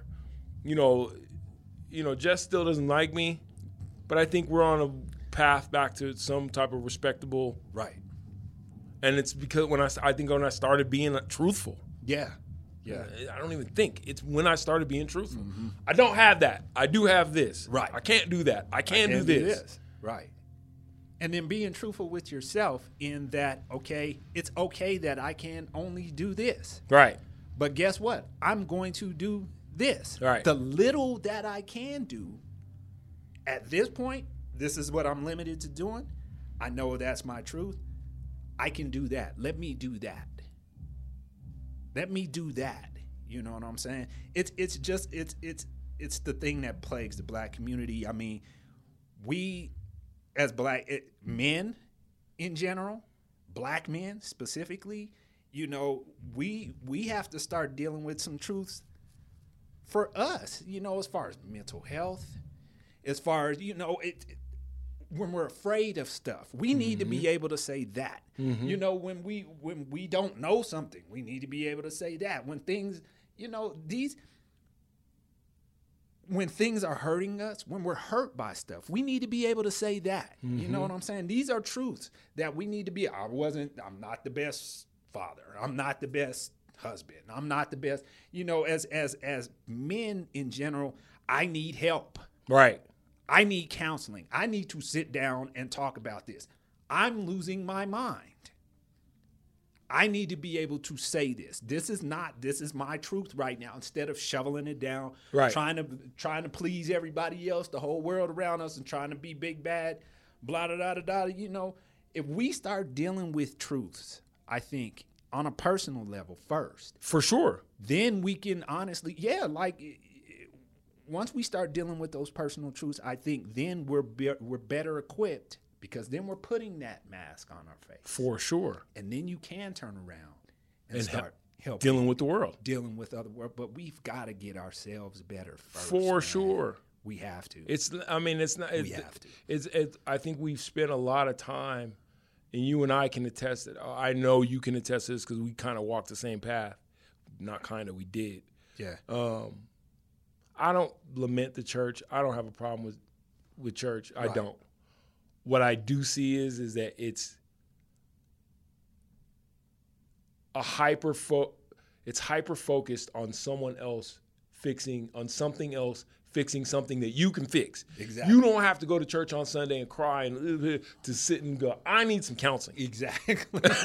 Jess still doesn't like me, but I think we're on a path back to some type of respectable. Right. And it's because when I started being truthful. Yeah. Yeah. I don't even think. It's when I started being truthful. Mm-hmm. I don't have that. I do have this. Right. I can't do that. I can do this. Right. And then being truthful with yourself in that, okay, it's okay that I can only do this. Right. But guess what? I'm going to do this. Right. The little that I can do at this point, this is what I'm limited to doing. I know that's my truth. I can do that. Let me do that. Let me do that. You know what I'm saying? It's the thing that plagues the black community. I mean, we as black men in general, black men specifically, we have to start dealing with some truths for us, as far as mental health, as far as, when we're afraid of stuff, we need to be able to say that. When we don't know something, we need to be able to say that. When things, when things are hurting us, when we're hurt by stuff, we need to be able to say that. You know what I'm saying? These are truths that we need to be. I'm not the best father. I'm not the best husband. I'm not the best, as men in general, I need help. Right. I need counseling. I need to sit down and talk about this. I'm losing my mind. I need to be able to say this. This is my truth right now. Instead of shoveling it down, right. trying to please everybody else, the whole world around us, and trying to be big bad, blah da da da da. If we start dealing with truths, I think on a personal level first, for sure, then we can honestly, once we start dealing with those personal truths, I think then we're better equipped, because then we're putting that mask on our face. For sure. And then you can turn around and start helping. Dealing with the world. Dealing with other world. But we've got to get ourselves better first. For sure. We have to. I think we've spent a lot of time, and you and I can attest that. I know you can attest to this because we kind of walked the same path. Not kind of, we did. Yeah. I don't lament the church. I don't have a problem with church. I Right. don't. What I do see is that it's hyper focused on someone else fixing something that you can fix. Exactly. You don't have to go to church on Sunday and cry and to sit and go, I need some counseling. Exactly.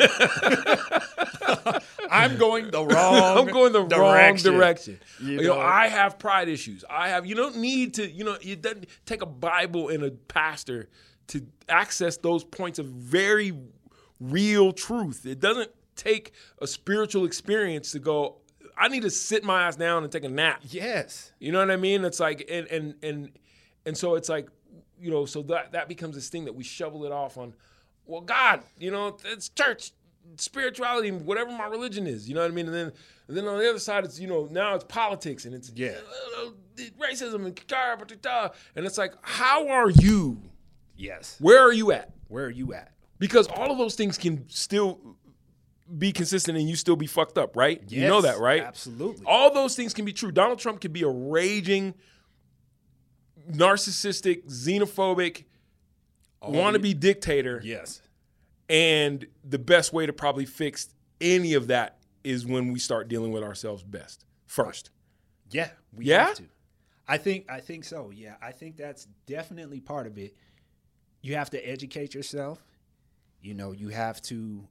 I'm going the wrong wrong direction. You I have pride issues. You don't need to, it doesn't take a Bible and a pastor to access those points of very real truth. It doesn't take a spiritual experience to go, I need to sit my ass down and take a nap. Yes. You know what I mean? It's like, and so it's like, so that becomes this thing that we shovel it off on, well, God, it's church, spirituality, whatever my religion is, you know what I mean? And then on the other side, it's, now it's politics and it's racism and it's like, how are you? Yes. Where are you at? Where are you at? Because all of those things can still be consistent and you still be fucked up, right? Yes, you know that, right? Absolutely. All those things can be true. Donald Trump could be a raging, narcissistic, xenophobic, wannabe dictator. Yes. And the best way to probably fix any of that is when we start dealing with ourselves first. Yeah. We Yeah? have to. I think so. Yeah. I think that's definitely part of it. You have to educate yourself. You have to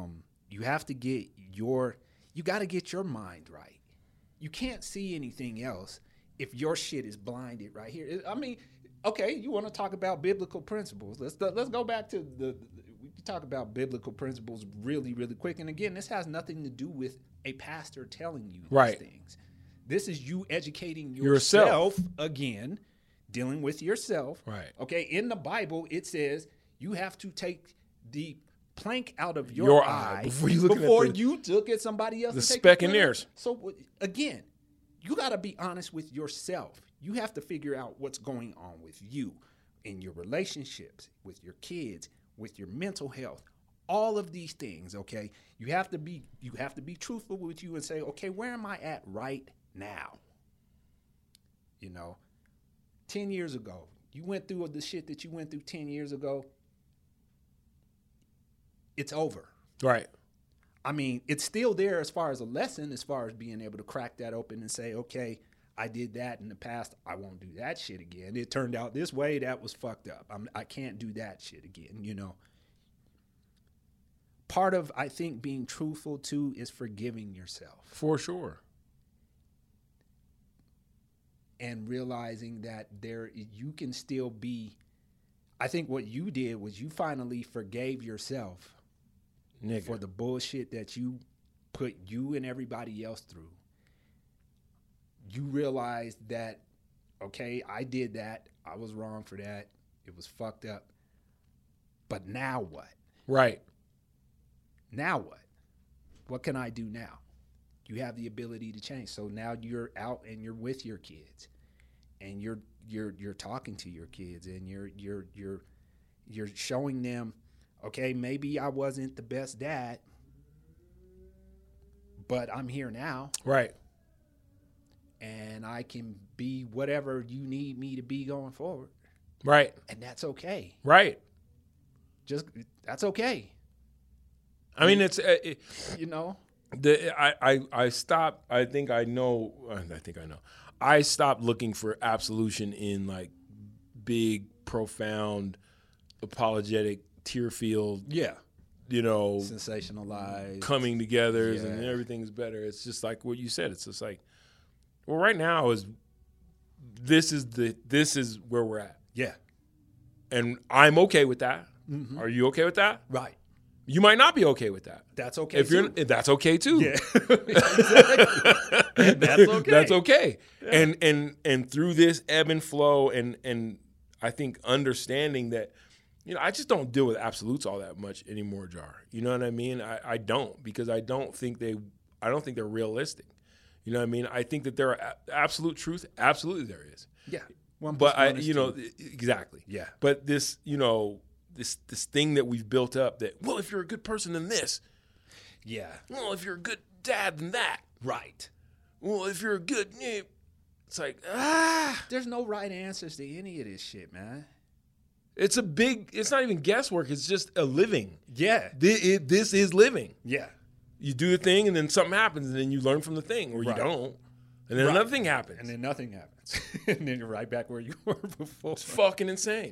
you got to get your mind right. You can't see anything else if your shit is blinded right here. I mean, okay, you want to talk about biblical principles. Let's go back to we can talk about biblical principles really, really quick. And again, this has nothing to do with a pastor telling you these things. This is you educating yourself again, dealing with yourself. Right. Okay, in the Bible, it says you have to take the plank out of your eye before you look at somebody else. The speck in theirs. So again, you got to be honest with yourself. You have to figure out what's going on with you in your relationships, with your kids, with your mental health, all of these things. Okay, you have to be truthful with you and say, okay, where am I at right now? 10 years ago, you went through the shit that you went through 10 years ago. It's over. Right. I mean, it's still there as far as a lesson, as far as being able to crack that open and say, okay, I did that in the past. I won't do that shit again. It turned out this way. That was fucked up. I can't do that shit again, Part of, I think, being truthful, too, is forgiving yourself. For sure. And realizing that you can still be. I think what you did was you finally forgave yourself for the bullshit that you put you and everybody else through. You realized that, okay, I did that. I was wrong for that. It was fucked up. But now what? Right. Now what? What can I do now? You have the ability to change. So now you're out and you're with your kids, and you're talking to your kids, and you're showing them, okay, maybe I wasn't the best dad, but I'm here now. Right. And I can be whatever you need me to be going forward. Right. And that's okay. Right. That's okay. I mean, it's I stopped. I think I know. I stopped looking for absolution in like big, profound, apologetic, tear-filled. Yeah. Sensationalized, coming together, and everything's better. It's just like what you said. It's just like, well, right now this is where we're at. Yeah. And I'm okay with that. Mm-hmm. Are you okay with that? Right. You might not be okay with that. That's okay. That's okay too. Yeah. Exactly. That's okay. That's okay. Yeah. And through this ebb and flow and I think understanding that, I just don't deal with absolutes all that much anymore, Jar. You know what I mean? I don't, because I don't think they're realistic. You know what I mean? I think that there are absolute truth. Absolutely there is. Yeah. But exactly. Yeah. But this, this thing that we've built up that, well, if you're a good person, then this. Yeah. Well, if you're a good dad, then that. Right. Well, if you're a good, it's like, There's no right answers to any of this shit, man. It's not even guesswork. It's just a living. Yeah. This is living. Yeah. You do the thing, and then something happens, and then you learn from the thing, or you don't. And then another thing happens. And then nothing happens. And then you're right back where you were before. It's fucking insane.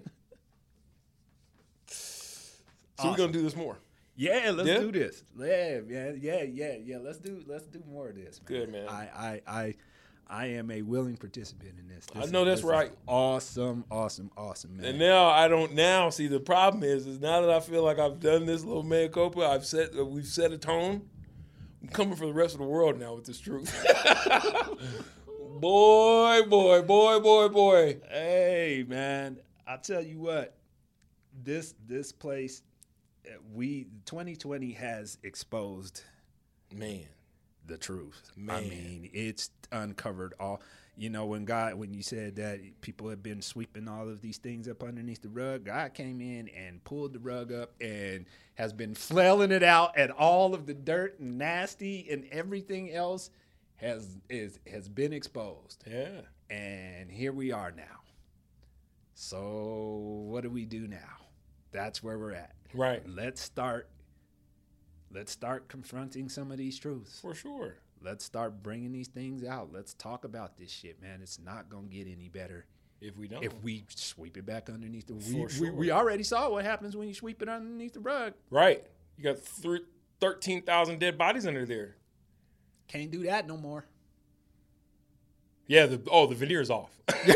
So we're gonna do this more. Yeah, let's do this. Yeah, man. Yeah. Let's do more of this, man. Good, man. I am a willing participant in this. I know that's right. Awesome, man. And now I don't. Now see, the problem is now that I feel like I've done this little mea culpa, we've set a tone. I'm coming for the rest of the world now with this truth. Boy. Hey, man, I tell you what, this place, 2020 has exposed Man. the truth. Man. I mean, it's uncovered all. When you said that people have been sweeping all of these things up underneath the rug, God came in and pulled the rug up and has been flailing it out, and all of the dirt and nasty and everything else has been exposed. Yeah. And here we are now. So what do we do now? That's where we're at. Right. Let's start confronting some of these truths. For sure. Let's start bringing these things out. Let's talk about this shit, man. It's not going to get any better If we don't. if we sweep it back underneath the For sure. we already saw what happens when you sweep it underneath the rug. Right. You got 13,000 dead bodies under there. Can't do that no more. Yeah, the veneer's off.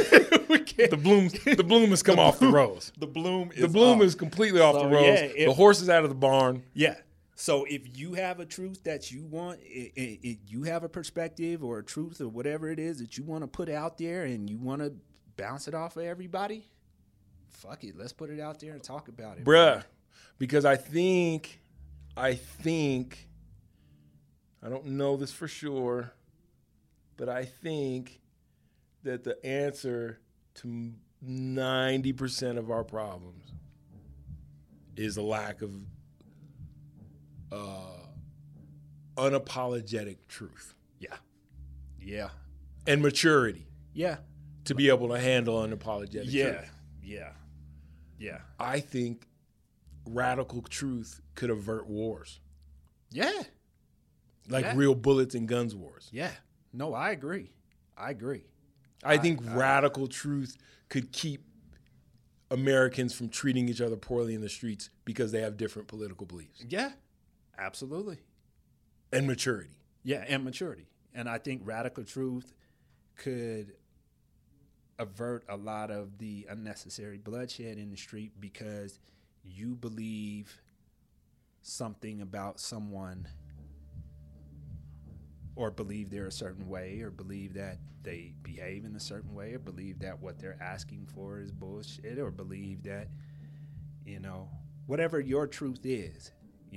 The bloom has come off the rose. The bloom Is completely off the rose. Yeah, the horse is out of the barn. Yeah. So if you have a truth that you want, you have a perspective or a truth or whatever it is that you want to put out there and you want to bounce it off of everybody, fuck it. Let's put it out there and talk about it. Bruh. Because I think, I don't know this for sure, but I think that the answer to 90% of our problems is a lack of unapologetic truth. Yeah. And maturity Yeah. to be able to handle unapologetic truth. Yeah. I think radical truth could avert wars, Yeah. like Yeah. real bullets and guns wars. Yeah. No, I agree. I think radical truth could keep Americans from treating each other poorly in the streets because they have different political beliefs Yeah. Absolutely. and maturity. Yeah, and maturity. And I think radical truth could avert a lot of the unnecessary bloodshed in the street because you believe something about someone or believe they're a certain way or believe that they behave in a certain way or believe that what they're asking for is bullshit or believe that, whatever your truth is,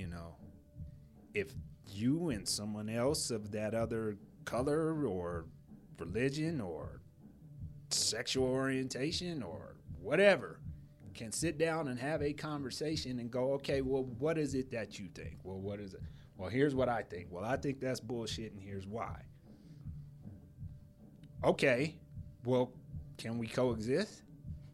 if you and someone else of that other color or religion or sexual orientation or whatever can sit down and have a conversation and go, okay, well, what is it that you think? Well, what is it? Well, here's what I think. Well, I think that's bullshit, and here's why. Okay, well, can we coexist?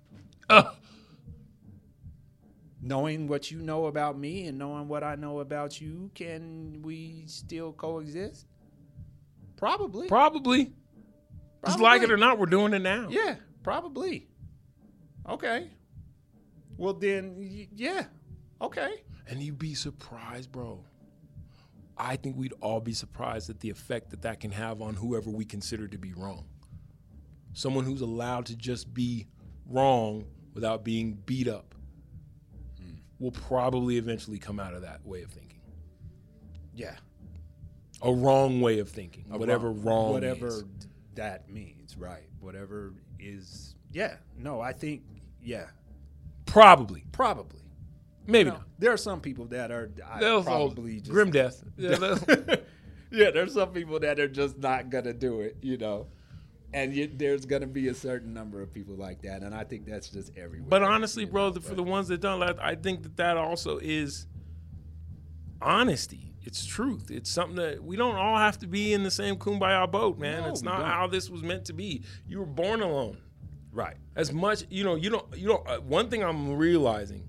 Knowing what you know about me and knowing what I know about you, can we still coexist? Probably. Just like it or not, we're doing it now. Yeah, probably. Okay. Well, then, yeah. Okay. And you'd be surprised, bro. I think we'd all be surprised at the effect that can have on whoever we consider to be wrong. Someone who's allowed to just be wrong without being beat up will probably eventually come out of that way of thinking. Yeah. A wrong way of thinking, whatever whatever is. that means, right? Whatever is, yeah. No, I think, yeah. Probably. Maybe not. There are some people that are They'll probably just grim death. Yeah, yeah, there's some people that are just not gonna do it, and there's gonna be a certain number of people like that, and I think that's just everywhere. But honestly, bro, for the ones that don't, I think that also is honesty. It's truth. It's something that we don't all have to be in the same kumbaya boat, man. No, it's we not don't. how this was meant to be. You were born alone. right. As much, you don't. One thing I'm realizing,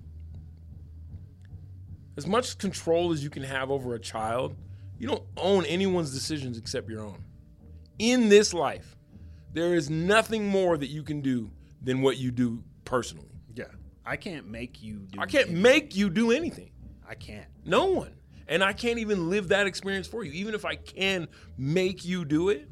as much control as you can have over a child, you don't own anyone's decisions except your own. In this life, there is nothing more that you can do than what you do personally. Yeah, I can't make you do. I can't make you do anything. I can't. No one. And I can't even live that experience for you. Even if I can make you do it,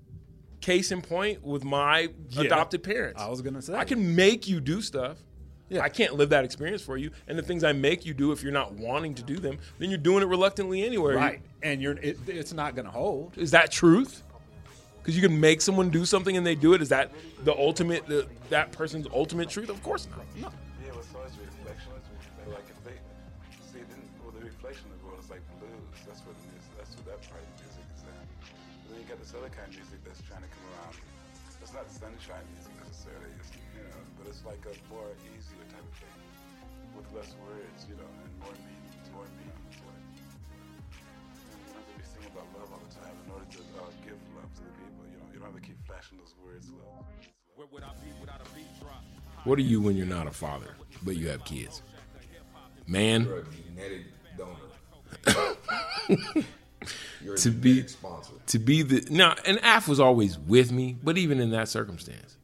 case in point with my adopted parents. I was gonna say I can make you do stuff. I can't live that experience for you. And the things I make you do, if you're not wanting to do them, then you're doing it reluctantly anyway. Right. And it's not going to hold. Is that truth? Because you can make someone do something and they do it. Is that the ultimate, that person's ultimate truth? Of course not. No. Yeah, it's always reflection. Like if they see, then the reflection of the world is like blues. That's what it is. That's what that part of music is at. But then you got this other kind of music that's trying to come around. It's not sunshine music necessarily, but it's like a more easier type of thing with less words, and more meaning to it. You don't have to be singing about love all the time in order to give love to the people. You don't have to keep flashing those words. Love. Where would I be without a beat drop? What are you when you're not a father, but you have kids? Man, You're a genetic donor. You're a to be genetic sponsor. to be the now, and Af was always with me, but even in that circumstance,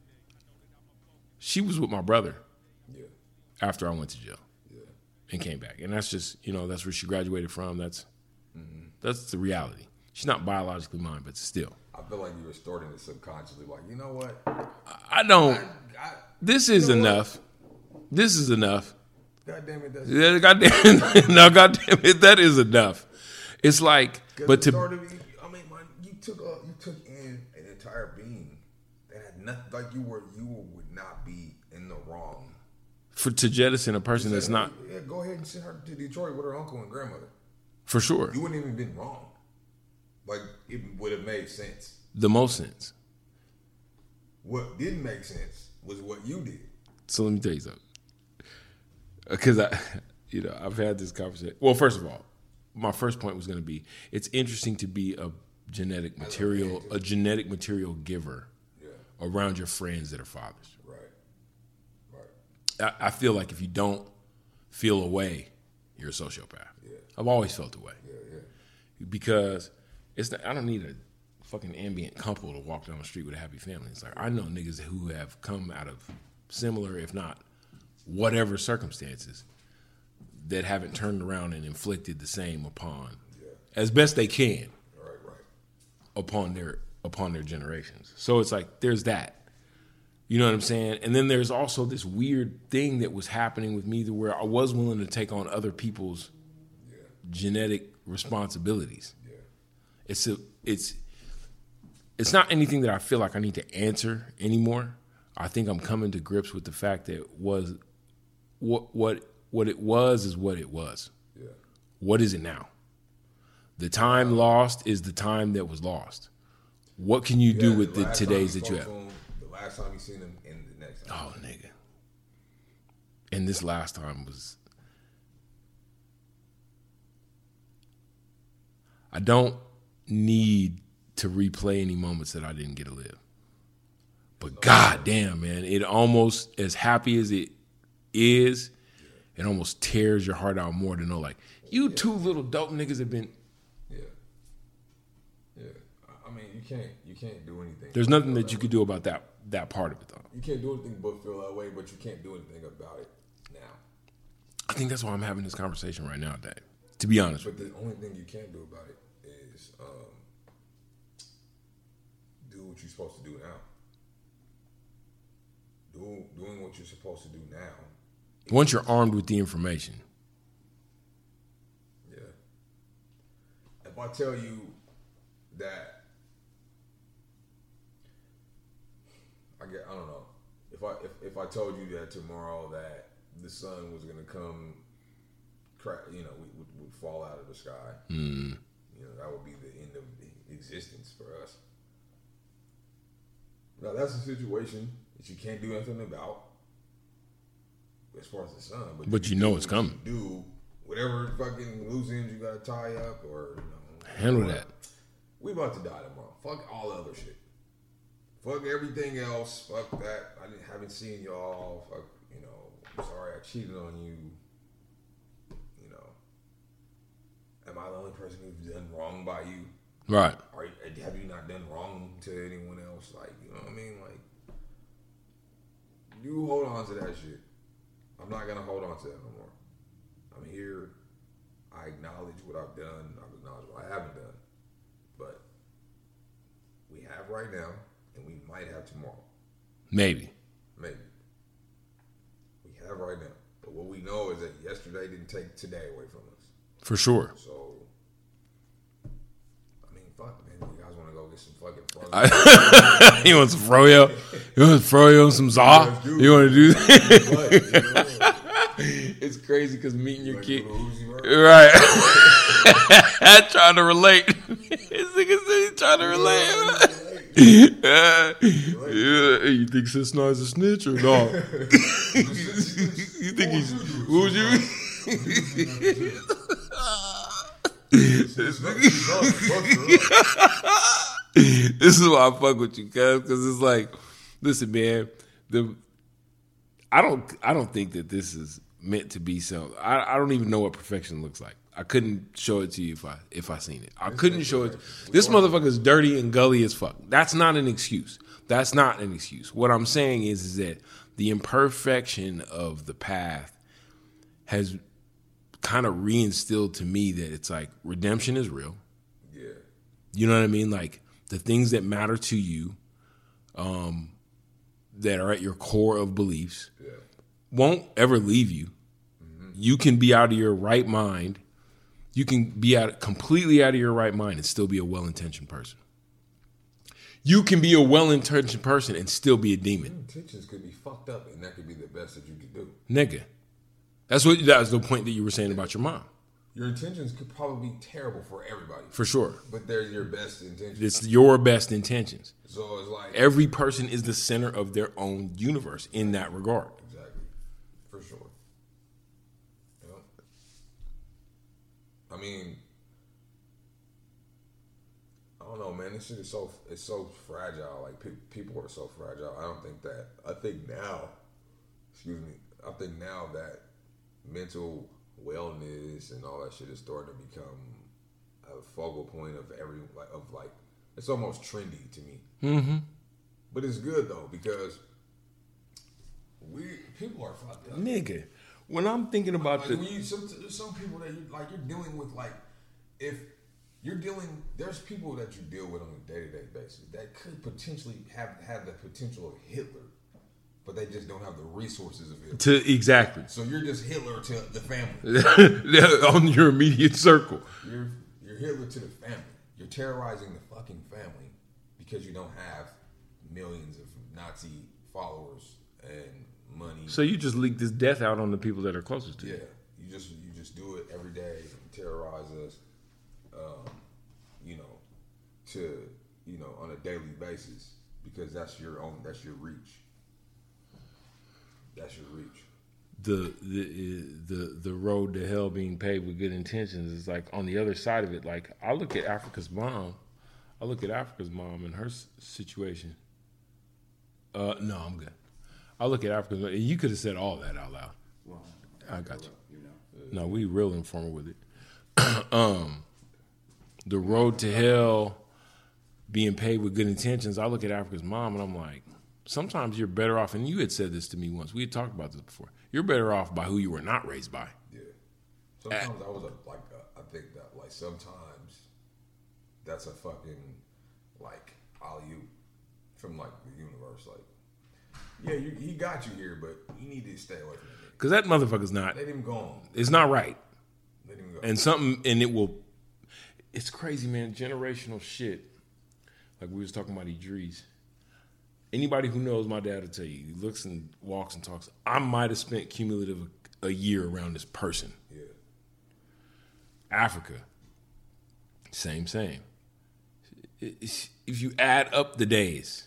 she was with my brother Yeah. after I went to jail Yeah. and came back, and that's just that's where she graduated from. That's the reality. She's not biologically mine, but still, I feel like you were starting it subconsciously. Like, you know what? I don't. I, This is you know enough. This is enough. God damn it. That's Yeah, no, goddamn it, that is enough. It's like, but to you took in an entire being that had nothing. Like you would not be in the wrong. to jettison a person that's not, Yeah, go ahead and send her to Detroit with her uncle and grandmother. for sure, You wouldn't even been wrong. Like it would have made sense. the most sense. What didn't make sense was what you did. So let me tell you something. Because I've had this conversation. Well, first of all, my first point was going to be, it's interesting to be a genetic material giver around your friends that are fathers. Right. I feel like if you don't feel a way, you're a sociopath. Yeah. I've always felt a way. Yeah. Because I don't need a fucking ambient couple to walk down the street with a happy family. It's like, I know niggas who have come out of similar, if not whatever circumstances, that haven't turned around and inflicted the same upon, as best they can, Right. upon their generations. So it's like, there's that. You know what I'm saying? And then there's also this weird thing that was happening with me, where I was willing to take on other people's genetic responsibilities. Yeah. It's not anything that I feel like I need to answer anymore. I think I'm coming to grips with the fact that what it was is what it was. Yeah. What is it now? The time lost is the time that was lost. What can you do with the today's that you have? The last time you seen him and the next time. Oh, nigga. And this last time was... I don't need to replay any moments that I didn't get to live. But goddamn, man, it almost, as happy as it is, it almost tears your heart out more to know, like, you two little dope niggas have been... Yeah. I mean, you can't do anything. There's nothing that you could do about that part of it, though. You can't do anything but feel that way, but you can't do anything about it now. I think that's why I'm having this conversation right now, Dave. To be honest with But the only thing you can do about it is do what you're supposed to do now. Doing what you're supposed to do now. you. Once you're armed with the information, Yeah. If I tell you that, I don't know. If I told you that tomorrow that the sun was gonna come, would fall out of the sky. That would be the end of existence for us. Now that's a situation that you can't do anything about as far as the sun. But you know it's coming. Do whatever fucking loose ends you gotta tie up or handle that. We about to die tomorrow. Fuck all the other shit. Fuck everything else. Fuck that. Haven't seen y'all. Fuck, I'm sorry I cheated on you. Am I the only person who's done wrong by you? Right. Or have you not done wrong to anyone else? Like, you know what I mean? Like, you hold on to that shit. I'm not gonna hold on to that no more. I'm here. I acknowledge what I've done. I acknowledge what I haven't done. But we have right now, and we might have tomorrow. Maybe. Maybe. We have right now. But what we know is that yesterday didn't take today away from us. For sure. So, I mean, fuck, man. You guys want to go get some fucking frozen? You want some froyo? You want some froyo, some za? You want to do that? It's crazy because meeting your kid. Right. Trying to relate. This nigga said he's trying to relate. You think Cisna is a snitch or no? You think he's... Who was you? This is why I fuck with you, cuz, because it's like, listen, man, I don't think that this is meant to be so. I don't even know what perfection looks like. I couldn't show it to you if I seen it. I couldn't show it. This motherfucker's dirty and gully as fuck. That's not an excuse. That's not an excuse. What I'm saying is that the imperfection of the path has kind of reinstilled to me that it's like redemption is real. Yeah. You know what I mean? Like the things that matter to you, that are at your core of beliefs, won't ever leave you. Mm-hmm. You can be out of your right mind. You can be completely out of your right mind and still be a well-intentioned person. You can be a well-intentioned person and still be a demon. Your intentions could be fucked up, and that could be the best that you could do. Nigga. That was the point that you were saying about your mom. Your intentions could probably be terrible for everybody. For sure. But they're your best intentions. It's your best intentions. So it's like... Every person is the center of their own universe in that regard. Exactly. For sure. Yep. I mean... I don't know, man. This shit is so fragile. Like, people are so fragile. I think now that mental wellness and all that shit is starting to become a focal point of it's almost trendy to me. Mm-hmm. But it's good though because people are fucked up. Nigga, when I'm thinking about there's some people that you're dealing with, like, if you're dealing, there's people that you deal with on a day-to-day basis that could potentially have the potential of Hitler, but they just don't have the resources of Hitler. Exactly. So you're just Hitler to the family. On your immediate circle. You're Hitler to the family. You're terrorizing the fucking family because you don't have millions of Nazi followers and money. So you just leak this death out on the people that are closest to you. Yeah. You just do it every day and terrorize us, on a daily basis because that's your reach. That's your reach. The road to hell being paved with good intentions is like on the other side of it. Like I look at Africa's mom and her situation. No, I'm good. I look at Africa's mom. You could have said all that out loud. Well, I got you. No, we real informal with it. The road to hell being paved with good intentions. I look at Africa's mom and I'm like, sometimes you're better off, and you had said this to me once. We had talked about this before. You're better off by who you were not raised by. Yeah. Sometimes I think that like sometimes that's a fucking like alley-oop from like the universe. Like, yeah, he got you here, but you need to stay away from it. Because that motherfucker's not. Let him go on. It's not right. Let him go. And it will. It's crazy, man. Generational shit. Like we was talking about Idris. Anybody who knows my dad will tell you, he looks and walks and talks. I might have spent cumulative a year around this person. Yeah. Africa, same. If you add up the days,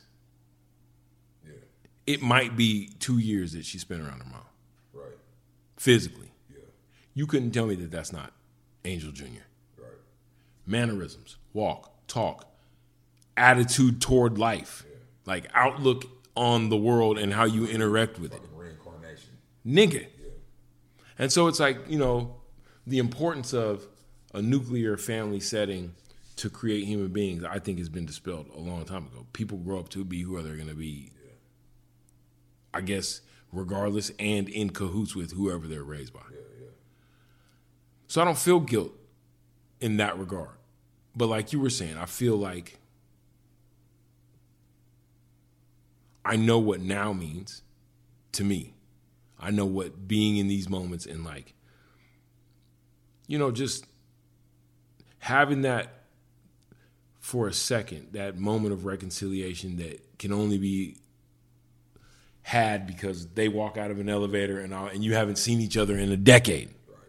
it might be 2 years that she spent around her mom. Right. Physically. Yeah. You couldn't tell me that that's not Angel Jr. Right. Mannerisms, walk, talk, attitude toward life. Yeah. Like outlook on the world and how you interact with it. Reincarnation. Nigga. Yeah. And so it's like, the importance of a nuclear family setting to create human beings, I think has been dispelled a long time ago. People grow up to be who they're going to be, I guess, regardless and in cahoots with whoever they're raised by. Yeah. So I don't feel guilt in that regard. But like you were saying, I feel like I know what now means to me. I know what being in these moments and like, you know, just having that for a second, that moment of reconciliation that can only be had because they walk out of an elevator and you haven't seen each other in a decade.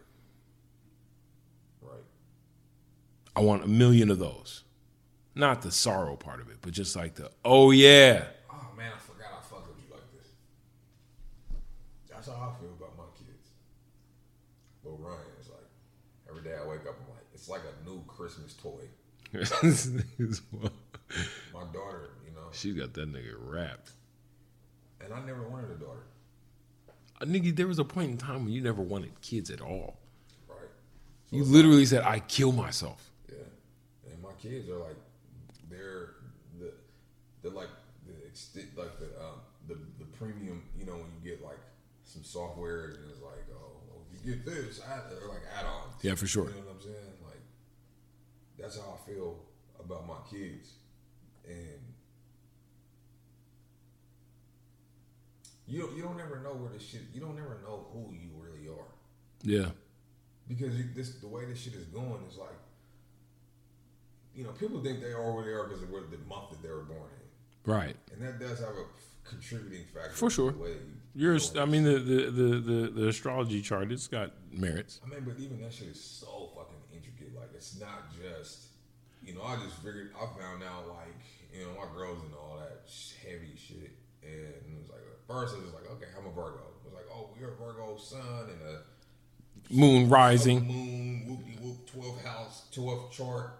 Right. I want 1 million of those. Not the sorrow part of it, but just like the, oh yeah. Oh man, I forgot I fucked with you like this. That's how I feel about my kids. Well, Ryan is like, every day I wake up, I'm like, it's like a new Christmas toy. My daughter, you know. She got that nigga wrapped. And I never wanted a daughter. Nigga, there was a point in time when you never wanted kids at all. Right. So you literally said, I kill myself. Yeah. And my kids are like, they're like the premium, you know, when you get like some software and it's like, oh, well, if you get this, they're like add-ons. Yeah, for sure. You know what I'm saying? Like, that's how I feel about my kids. And you don't ever know where this shit, you don't ever know who you really are. Yeah. Because the way this shit is going is like, you know, people think they are where they are because of the month that they were born in. Right. And that does have a contributing factor. For sure. To the way the astrology chart, it's got merits. I mean, but even that shit is so fucking intricate. Like, it's not just, you know, I just figured, I found out, like, you know, my girl's into all that heavy shit. And it was like, at first I was like, okay, I'm a Virgo. It was like, oh, you're a Virgo sun and a Moon rising. Moon, whoop-de-whoop, 12th house, 12th chart.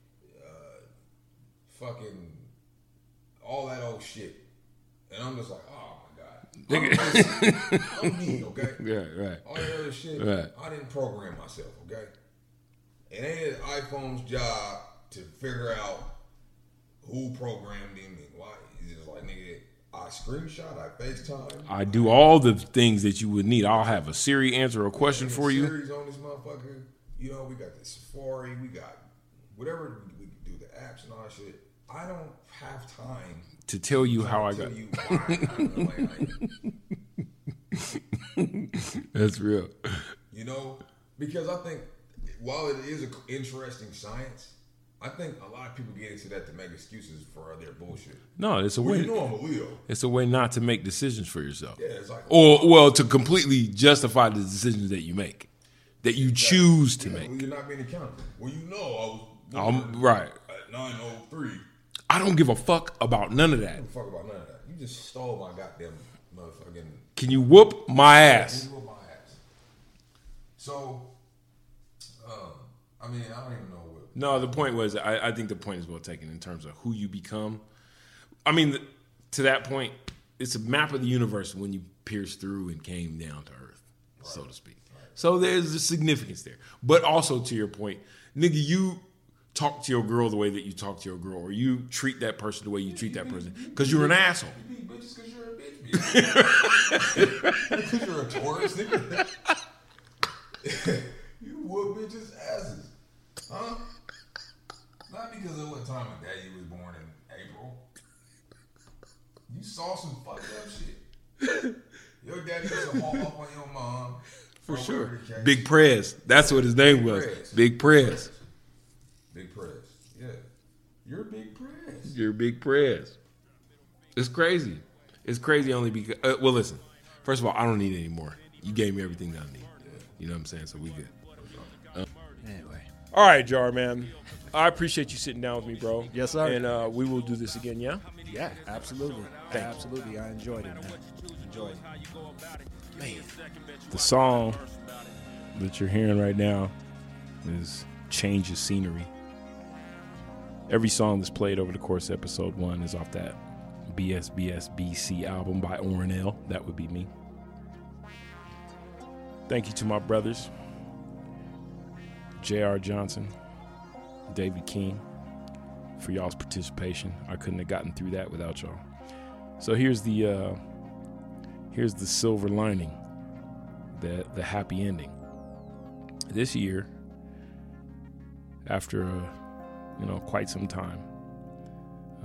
Fucking all that old shit. And I'm just like, oh my God. I'm me, okay? Yeah, right. All that other shit, right. I didn't program myself, okay? It ain't iPhone's job to figure out who programmed him and why. It's just like, nigga, I screenshot, I FaceTime. I do all the things that you would need. I'll have a Siri answer a question for you. Series on this motherfucker. You know, we got the Safari, we got whatever we can do, the apps and all that shit. I don't have time to tell you how I got. You why That's real. You know, because I think while it is an interesting science, I think a lot of people get into that to make excuses for their bullshit. No, it's a way. You know I'm a Leo. It's a way not to make decisions for yourself. Yeah, it's like, to completely justify the decisions that you make, that you choose to make. Well, you're not being accountable. Well, you know I was right at 9:03. I don't give a fuck about none of that. I don't fuck about none of that. You just stole my goddamn motherfucking. Can you whoop my ass? Can you whoop my ass? So, I mean, I don't even know what. No, the point was, I think the point is well taken in terms of who you become. I mean, to that point, it's a map of the universe when you pierced through and came down to earth, right, so to speak. Right. So there's a significance there. But also to your point, nigga, you talk to your girl the way that you talk to your girl, or you treat that person the way you treat that person, because you're an asshole. You beat bitches because you're a bitch. Because you're a Taurus, nigga. You whoop bitches' asses. Huh? Not because of what time of day you was born in April. You saw some fucked up shit. Your daddy used to haul up on your mom. For sure. Big Prez. That's what his name was. Big Prez. Big Prez. Yeah. You're Big Prez. You're Big Prez. It's crazy. It's crazy only because, well, listen. First of all, I don't need any more. You gave me everything that I need. You know what I'm saying? So we good. Anyway. All right, Jar, man. I appreciate you sitting down with me, bro. Yes, sir. And we will do this again, yeah? Yeah, absolutely. Absolutely. I enjoyed it, man. Enjoyed it. Man. The song that you're hearing right now is Change of Scenery. Every song that's played over the course of episode 1 is off that BSBSBC album by Orrin L. That would be me. Thank you to my brothers, J.R. Johnson, David King, for y'all's participation. I couldn't have gotten through that without y'all. So here's the silver lining, the happy ending. This year, after quite some time,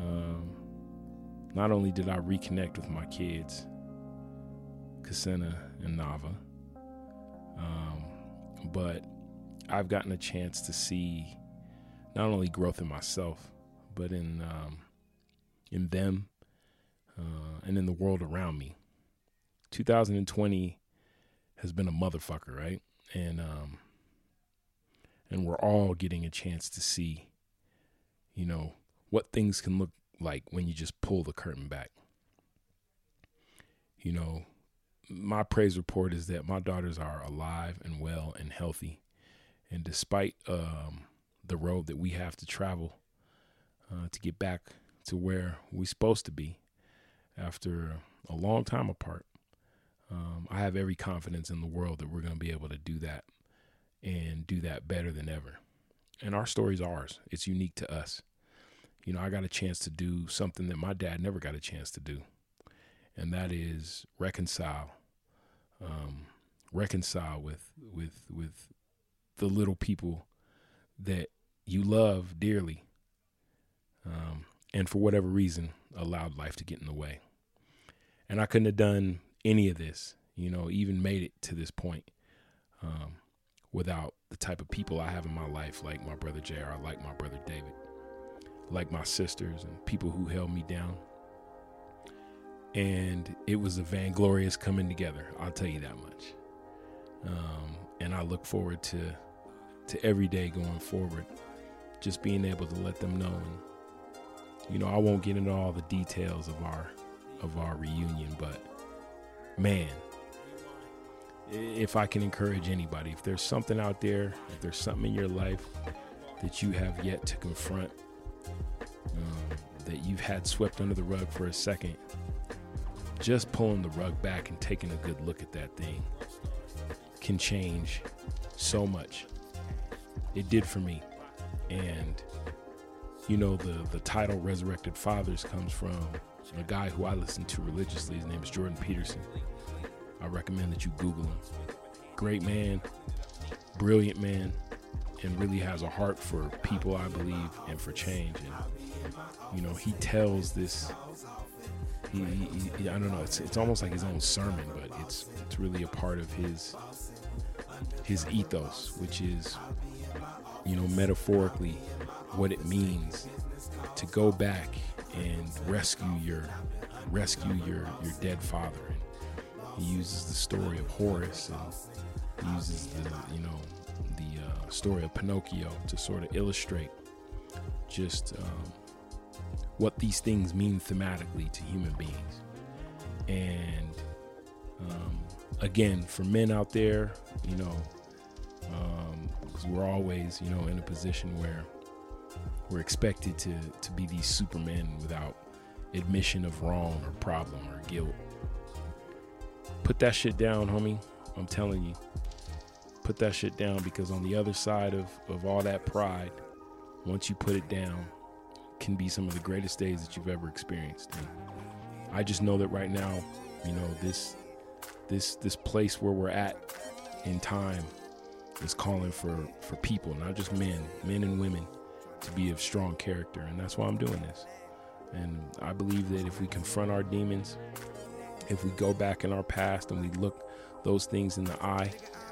not only did I reconnect with my kids, Kasena and Nava. But I've gotten a chance to see not only growth in myself, but in them and in the world around me. 2020 has been a motherfucker, right? And we're all getting a chance to see, you know, what things can look like when you just pull the curtain back. You know, my praise report is that my daughters are alive and well and healthy. And despite the road that we have to travel to get back to where we're supposed to be after a long time apart, I have every confidence in the world that we're going to be able to do that and do that better than ever. And our story's ours. It's unique to us. You know, I got a chance to do something that my dad never got a chance to do, and that is reconcile with the little people that you love dearly, and for whatever reason allowed life to get in the way. And I couldn't have done any of this, you know, even made it to this point, without the type of people I have in my life, like my brother JR, like my brother David, like my sisters and people who held me down. And it was a vainglorious coming together, I'll tell you that much. And I look forward to every day going forward, just being able to let them know. And, you know, I won't get into all the details of our reunion, but man, if I can encourage anybody, if there's something out there, if there's something in your life that you have yet to confront, that you've had swept under the rug for a second, just pulling the rug back and taking a good look at that thing can change so much. It did for me. And, you know, the title Resurrected Fathers comes from a guy who I listen to religiously. His name is Jordan Peterson. I recommend that you Google him. Great man, brilliant man, and really has a heart for people, I believe, and for change. And, you know, he tells this, he I don't know, it's almost like his own sermon, but it's really a part of his ethos, which is, you know, metaphorically what it means to go back and rescue your dead father. And he uses the story of Horace, and he uses the story of Pinocchio to sort of illustrate just what these things mean thematically to human beings. And again, for men out there, you know, because we're always, you know, in a position where we're expected to be these supermen without admission of wrong or problem or guilt. Put that shit down, homie. I'm telling you. Put that shit down, because on the other side of all that pride, once you put it down, can be some of the greatest days that you've ever experienced. And I just know that right now, you know, this place where we're at in time is calling for people, not just men and women, to be of strong character. And that's why I'm doing this. And I believe that if we confront our demons, if we go back in our past and we look those things in the eye,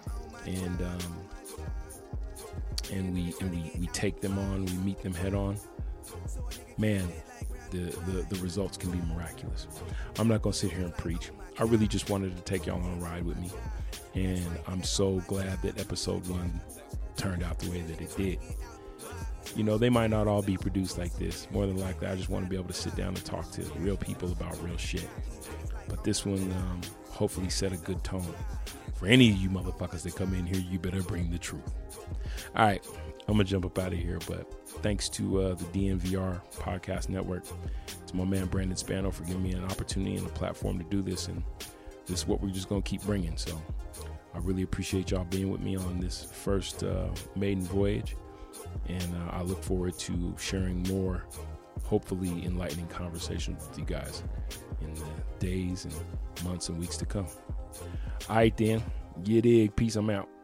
and we take them on, we meet them head on, man, the results can be miraculous. I'm not gonna sit here and preach. I really just wanted to take y'all on a ride with me, and I'm so glad that episode 1 turned out the way that it did. You know, they might not all be produced like this. More than likely, I just want to be able to sit down and talk to real people about real shit. But this one hopefully set a good tone. For any of you motherfuckers that come in here, you better bring the truth. All right, I'm going to jump up out of here, but thanks to the DNVR Podcast Network, to my man Brandon Spano for giving me an opportunity and a platform to do this, and this is what we're just going to keep bringing. So I really appreciate y'all being with me on this first maiden voyage, and I look forward to sharing more, hopefully enlightening conversations with you guys in the days and months and weeks to come. All right, then. You dig. Peace. I'm out.